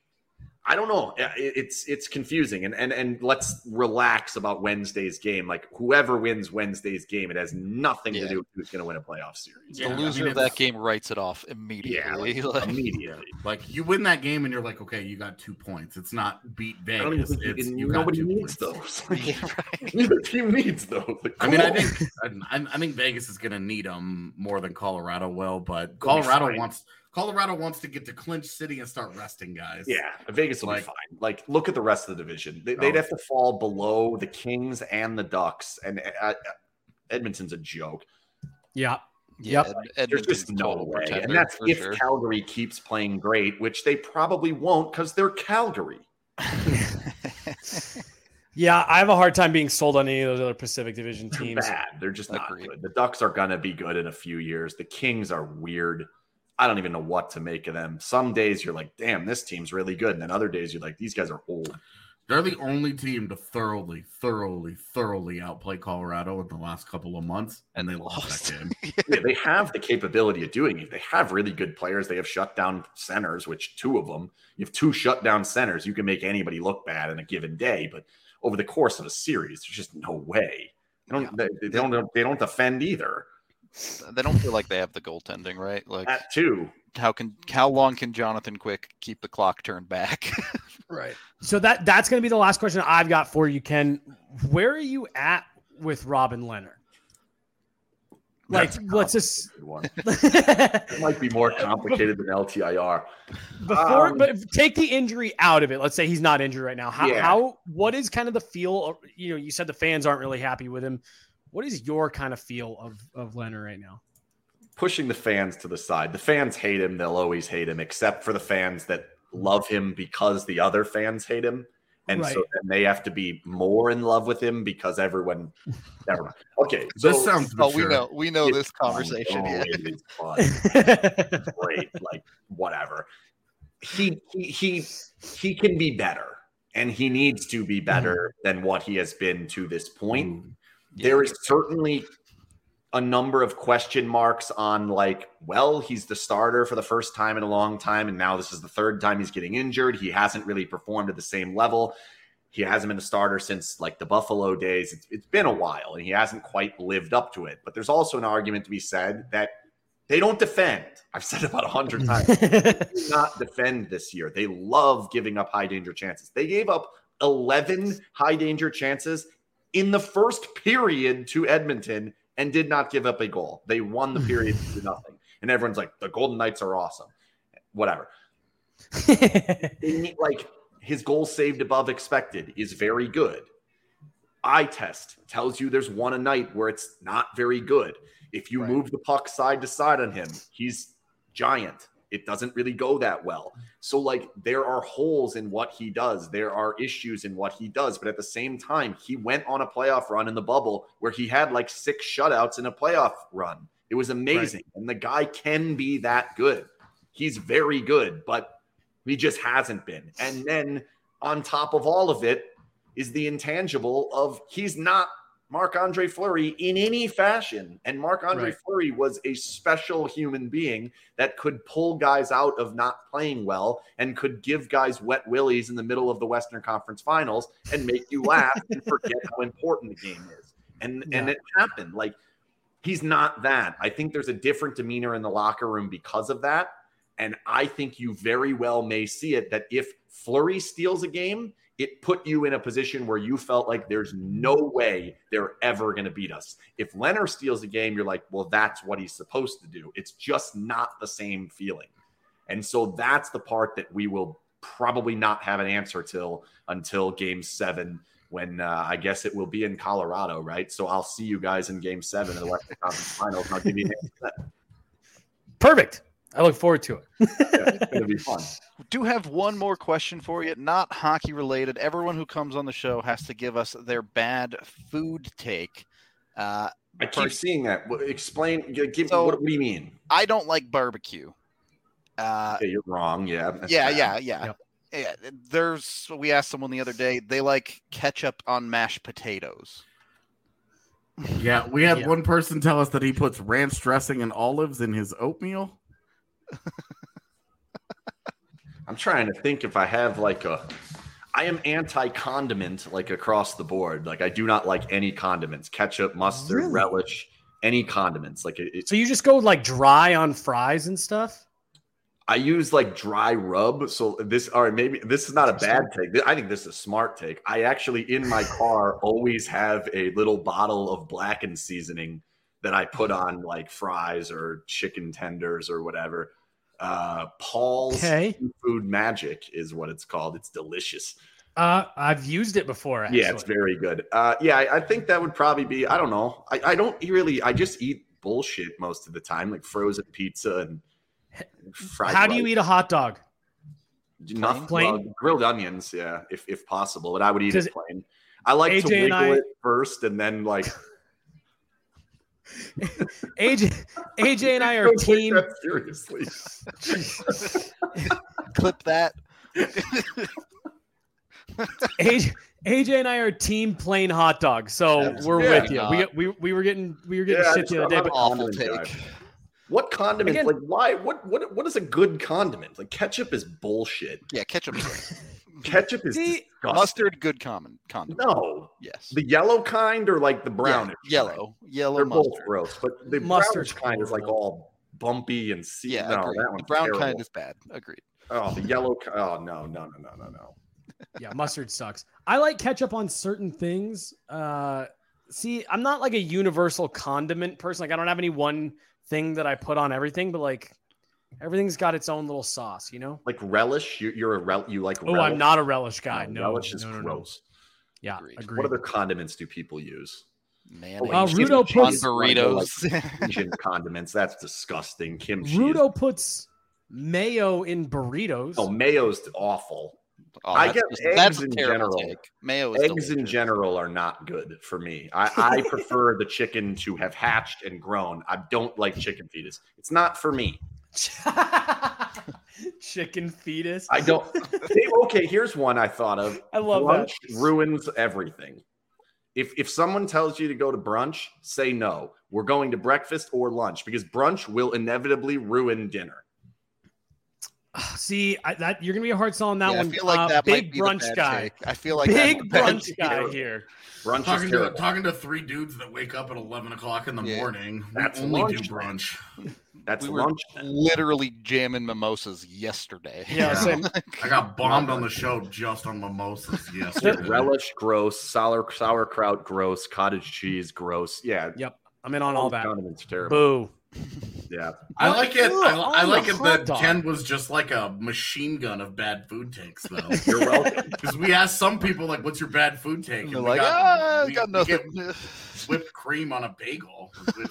I don't know. It's it's confusing. And and and let's relax about Wednesday's game. Like, whoever wins Wednesday's game, it has nothing yeah. to do with who's going to win a playoff series. The yeah, loser I mean, of that game writes it off immediately. Yeah, like, immediately. Like, you win that game and you're like, okay, you got two points. It's not beat Vegas. It's, you nobody needs points. those. Like, yeah, right. Neither team needs those. Like, I mean, on. I think I, I think Vegas is going to need them more than Colorado will, but Colorado wants – Colorado wants to get to Clinch City and start resting guys. Yeah, Vegas will like, be fine. Like, look at the rest of the division. They, they'd have to fall below the Kings and the Ducks, and uh, Edmonton's a joke. Yeah. Yeah, yep. Ed, There's just no way. And that's if sure. Calgary keeps playing great, which they probably won't because they're Calgary. Yeah, I have a hard time being sold on any of those other Pacific Division teams. They're bad. They're just not Agreed. good. The Ducks are going to be good in a few years. The Kings are weird. I don't even know what to make of them. Some days you're like, damn, this team's really good. And then other days you're like, these guys are old. They're the only team to thoroughly, thoroughly, thoroughly outplay Colorado in the last couple of months. And they lost that game. Yeah, they have the capability of doing it. They have really good players. They have shutdown centers, which two of them, you have two shutdown centers. You can make anybody look bad in a given day. But over the course of a series, there's just no way. They don't, yeah. they, they don't, they don't defend either. They don't feel like they have the goaltending, right? Like That too. how can how long can Jonathan Quick keep the clock turned back? Right. So that that's going to be the last question I've got for you, Ken. Where are you at with Robin Leonard? Like, let's just Good one. It might be more complicated than L T I R. before, Um, but take the injury out of it. Let's say he's not injured right now. How, Yeah. how, what is kind of the feel of, you know, you said the fans aren't really happy with him. What is your kind of feel of, of Leonard right now? Pushing the fans to the side. The fans hate him. They'll always hate him, except for the fans that love him because the other fans hate him. And Right. so then they have to be more in love with him because everyone. Never mind. Okay. So, This sounds Oh, we mature. know we know it's this fun. conversation. Oh, Yeah. it is fun. Great. Like, whatever. He, he, he, he can be better, and he needs to be better than what he has been to this point. There is certainly a number of question marks on, like, well, he's the starter for the first time in a long time, and now this is the third time he's getting injured. He hasn't really performed at the same level. He hasn't been a starter since, like, the Buffalo days. It's, it's been a while, and he hasn't quite lived up to it. But there's also an argument to be said that they don't defend. I've said it about a hundred times. They do not defend this year. They love giving up high danger chances. They gave up eleven high danger chances in the first period to Edmonton and did not give up a goal. They won the period to nothing. And everyone's like, the Golden Knights are awesome. Whatever. They need, like, his goal saved above expected is very good. Eye test tells you there's one a night where it's not very good. If you Right. move the puck side to side on him, he's giant. It doesn't really go that well. So, like, there are holes in what he does. There are issues in what he does. But at the same time, he went on a playoff run in the bubble where he had like six shutouts in a playoff run. It was amazing. Right. And the guy can be that good. He's very good, but he just hasn't been. And then on top of all of it is the intangible of he's not Marc-Andre Fleury in any fashion. And Marc-Andre right. Fleury was a special human being that could pull guys out of not playing well and could give guys wet willies in the middle of the Western Conference Finals and make you laugh and forget how important the game is. And, yeah. and it happened. Like, he's not that. I think there's a different demeanor in the locker room because of that. And I think you very well may see it that if Fleury steals a game, it put you in a position where you felt like there's no way they're ever going to beat us. If Leonard steals a game, you're like, well, that's what he's supposed to do. It's just not the same feeling. And so that's the part that we will probably not have an answer till until game seven, when uh, I guess it will be in Colorado, right? So I'll see you guys in game seven of the Western Conference Finals, and I'll give you an answer to that. Perfect. I look forward to it. Yeah, it's going to be fun. Do have one more question for you, not hockey related. Everyone who comes on the show has to give us their bad food take. Uh, I keep first, seeing that. Explain. Give, so, what, what do you mean? I don't like barbecue. Uh, yeah, you're wrong. Yeah. Yeah, yeah, yeah, yep. yeah. There's. We asked someone the other day. They like ketchup on mashed potatoes. Yeah, we had yeah. one person tell us that he puts ranch dressing and olives in his oatmeal. I'm trying to think if I have like a I am anti-condiment like across the board. Like I do not like any condiments, ketchup, mustard, really? relish, any condiments. Like it, it, So you just go like dry on fries and stuff? I use like dry rub. So this all right, maybe this is not a bad take. I think this is a smart take. I actually in my car always have a little bottle of blackened seasoning that I put on like fries or chicken tenders or whatever. Uh, Paul's okay. Food Magic is what it's called. It's delicious. Uh, I've used it before. Actually. Yeah, it's very good. Uh, yeah, I, I think that would probably be. I don't know. I, I don't really. I just eat bullshit most of the time, like frozen pizza and fried. How do you eat a hot dog? Nothing. Plain? Well, grilled onions, yeah, if if possible. But I would eat Does it plain. I like A J to wiggle I, it first and then like. A J, A J and I are team. Seriously. Clip that. A J, A J and I are team plain hot dog, so That's we're yeah, with you. We, we we were getting we were getting yeah, shit the other day, but awful take. What condiment? Again, like why? What what what is a good condiment? Like ketchup is bullshit. Yeah, ketchup. Ketchup is See, disgusting. Mustard, good common condiment. No, Yes. the yellow kind or like the brownish. Yeah, kind? yellow. Yellow They're both mustard. gross, but the Mustard's brownish kind is like horrible. all bumpy and see. Yeah, no, agreed. that The one's brown terrible. kind is bad. Agreed. Oh, the yellow. ki- Oh no, no, no, no, no, no. Yeah, mustard sucks. I like ketchup on certain things. Uh, see, I'm not like a universal condiment person. Like, I don't have any one thing that I put on everything, but like everything's got its own little sauce, you know? Like relish. You, you're a rel. You like? Oh, relish? I'm not a relish guy. No, No, relish is no, no, no. gross. Yeah, Agreed. agreed. What other condiments do people use? Mayonnaise. Uh, Kimchi Rudo cheese, puts- on like, burritos. Asian condiments. That's disgusting. Kimchi. is- Rudo puts mayo in burritos. Oh, mayo's awful. Oh, I that's get just- eggs that's a in terrible general. take. Mayo is Eggs in delicious. general are not good for me. I, I prefer the chicken to have hatched and grown. I don't like chicken fetus. It's not for me. Chicken fetus. I don't. Hey, okay, here's one I thought of. I love brunch that. ruins everything. If if someone tells you to go to brunch, say no. We're going to breakfast or lunch because brunch will inevitably ruin dinner. See, I, that you're gonna be a hard sell on that Yeah, one. I feel like Uh, that might big be the brunch bad guy. take. I feel like Big that's the bad brunch take. guy here. Brunch Talking is to terrible. talking to three dudes that wake up at eleven o'clock in the Yeah. morning. That's we only lunch. do brunch. That's We were lunch. literally jamming mimosas yesterday. Yeah, Yeah. same. I got bombed on the show just on mimosas. Yes, Relish, gross. Sour sauerkraut, gross. Cottage cheese, gross. Yeah, Yep, I'm in on all that. condiments terrible. Boo. Yeah, I like it. I, Ugh, I on like the it hot that dog. Ken was just like a machine gun of bad food takes, though. you're welcome. Because we asked some people, like, "What's your bad food take?" They're And we like, got, ah, we, got we get nothing. whipped cream on a bagel,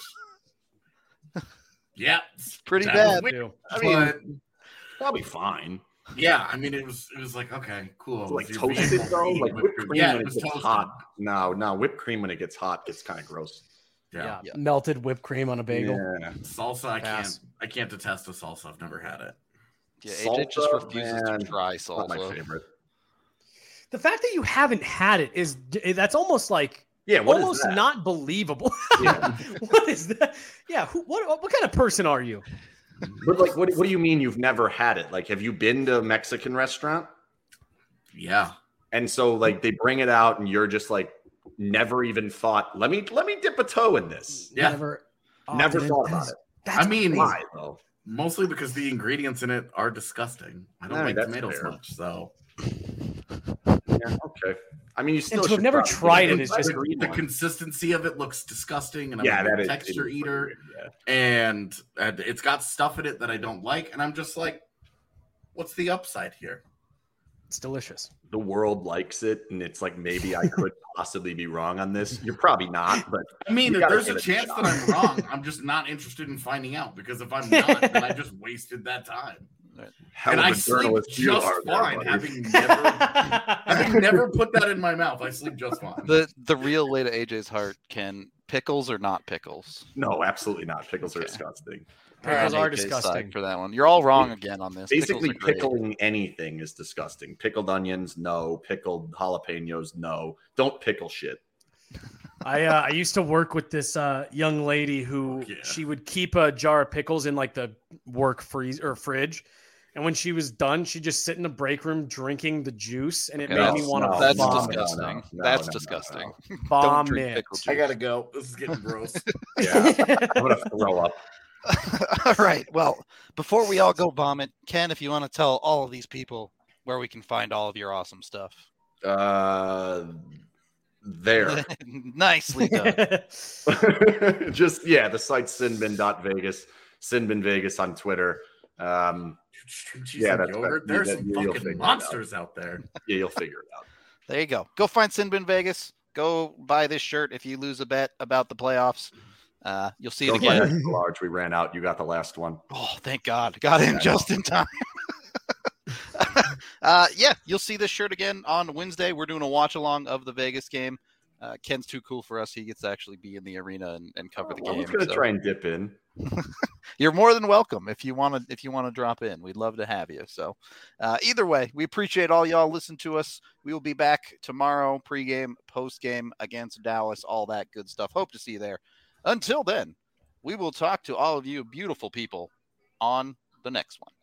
which, yeah, it's Pretty that bad. was Too. I mean, but probably fine. yeah, I mean, it was it was like okay, cool. Like You're toasted being- though, like whipped cream yeah, when it it was gets toasted. hot. No, no, whipped cream when it gets hot gets kind of gross. Yeah. Yeah. Yeah. melted whipped cream on a bagel. Yeah. Salsa, I Pass. can't. I can't detest a salsa. I've never had it. Yeah, A J just Salsa, refuses man, to try Not my salsa. favorite. The fact that you haven't had it is that's almost like Yeah, what is almost that? not believable. Yeah. What is that? Yeah, who, what what kind of person are you? But like, what, what do you mean you've never had it? Like, have you been to a Mexican restaurant? Yeah. And so like they bring it out and you're just like never even thought, let me let me dip a toe in this. Yeah. Never, oh, Never dude, thought that about is- it. That's I mean, crazy. Why though? Mostly because the ingredients in it are disgusting. I don't I mean, like that's tomatoes fair. much, so Yeah, okay. I mean, you still to have should never probably tried get it is the just- green the one. consistency of it looks disgusting, and I'm yeah, a that big is texture it is eater, weird, yeah. and, and it's got stuff in it that I don't like, and I'm just like, what's the upside here? It's delicious. The world likes it, and it's like maybe I could possibly be wrong on this. You're probably not, but I mean, You if gotta there's give a it a chance shot. that I'm wrong, I'm just not interested in finding out because if I'm not, then I just wasted that time. hell and of I a sleep journalist you just are there, fine, buddy. having never, having never put that in my mouth. I sleep just fine. The the real way to A J's heart, Ken, pickles or not pickles? No, absolutely not. Pickles are Okay. disgusting. Pickles On are A J's side disgusting. for that one. You're all wrong again on this. Basically, Pickles are great. pickling anything is disgusting. Pickled onions, no. Pickled jalapenos, no. Don't pickle shit. I uh, I used to work with this uh, young lady who Yeah. she would keep a jar of pickles in like the work freeze or fridge, and when she was done, she'd just sit in the break room drinking the juice, and it Okay, made me that's- want to That's vomit. disgusting. No, no, no, that's no, no, disgusting. no. Don't drink Vomit. pickle juice. I gotta go. This is getting gross. Yeah, I'm gonna throw up. All right. Well, before we all go vomit, Ken, if you want to tell all of these people where we can find all of your awesome stuff. Uh, there. Nicely done. Just yeah, the site's sinbin dot vegas, Sinbin Vegas on Twitter. Um, Cheese Yeah, and that's- yogurt. that- There's that- some you'll figure fucking it monsters out there. yeah, you'll figure it out. There you go. Go find Sinbin Vegas. Go buy this shirt if you lose a bet about the playoffs. Uh, you'll see it Don't buy again. extra large. We ran out. You got the last one. Oh, thank God. Got in Yeah. just in time. uh, yeah, you'll see this shirt again on Wednesday. We're doing a watch along of the Vegas game. Uh, Ken's too cool for us. He gets to actually be in the arena and, and cover the I game. was gonna so try and dip in. You're more than welcome if you want to if you want to drop in. We'd love to have you. So uh, either way, we appreciate all y'all listen to us. We will be back tomorrow, pregame, postgame against Dallas, all that good stuff. Hope to see you there. Until then, we will talk to all of you beautiful people on the next one.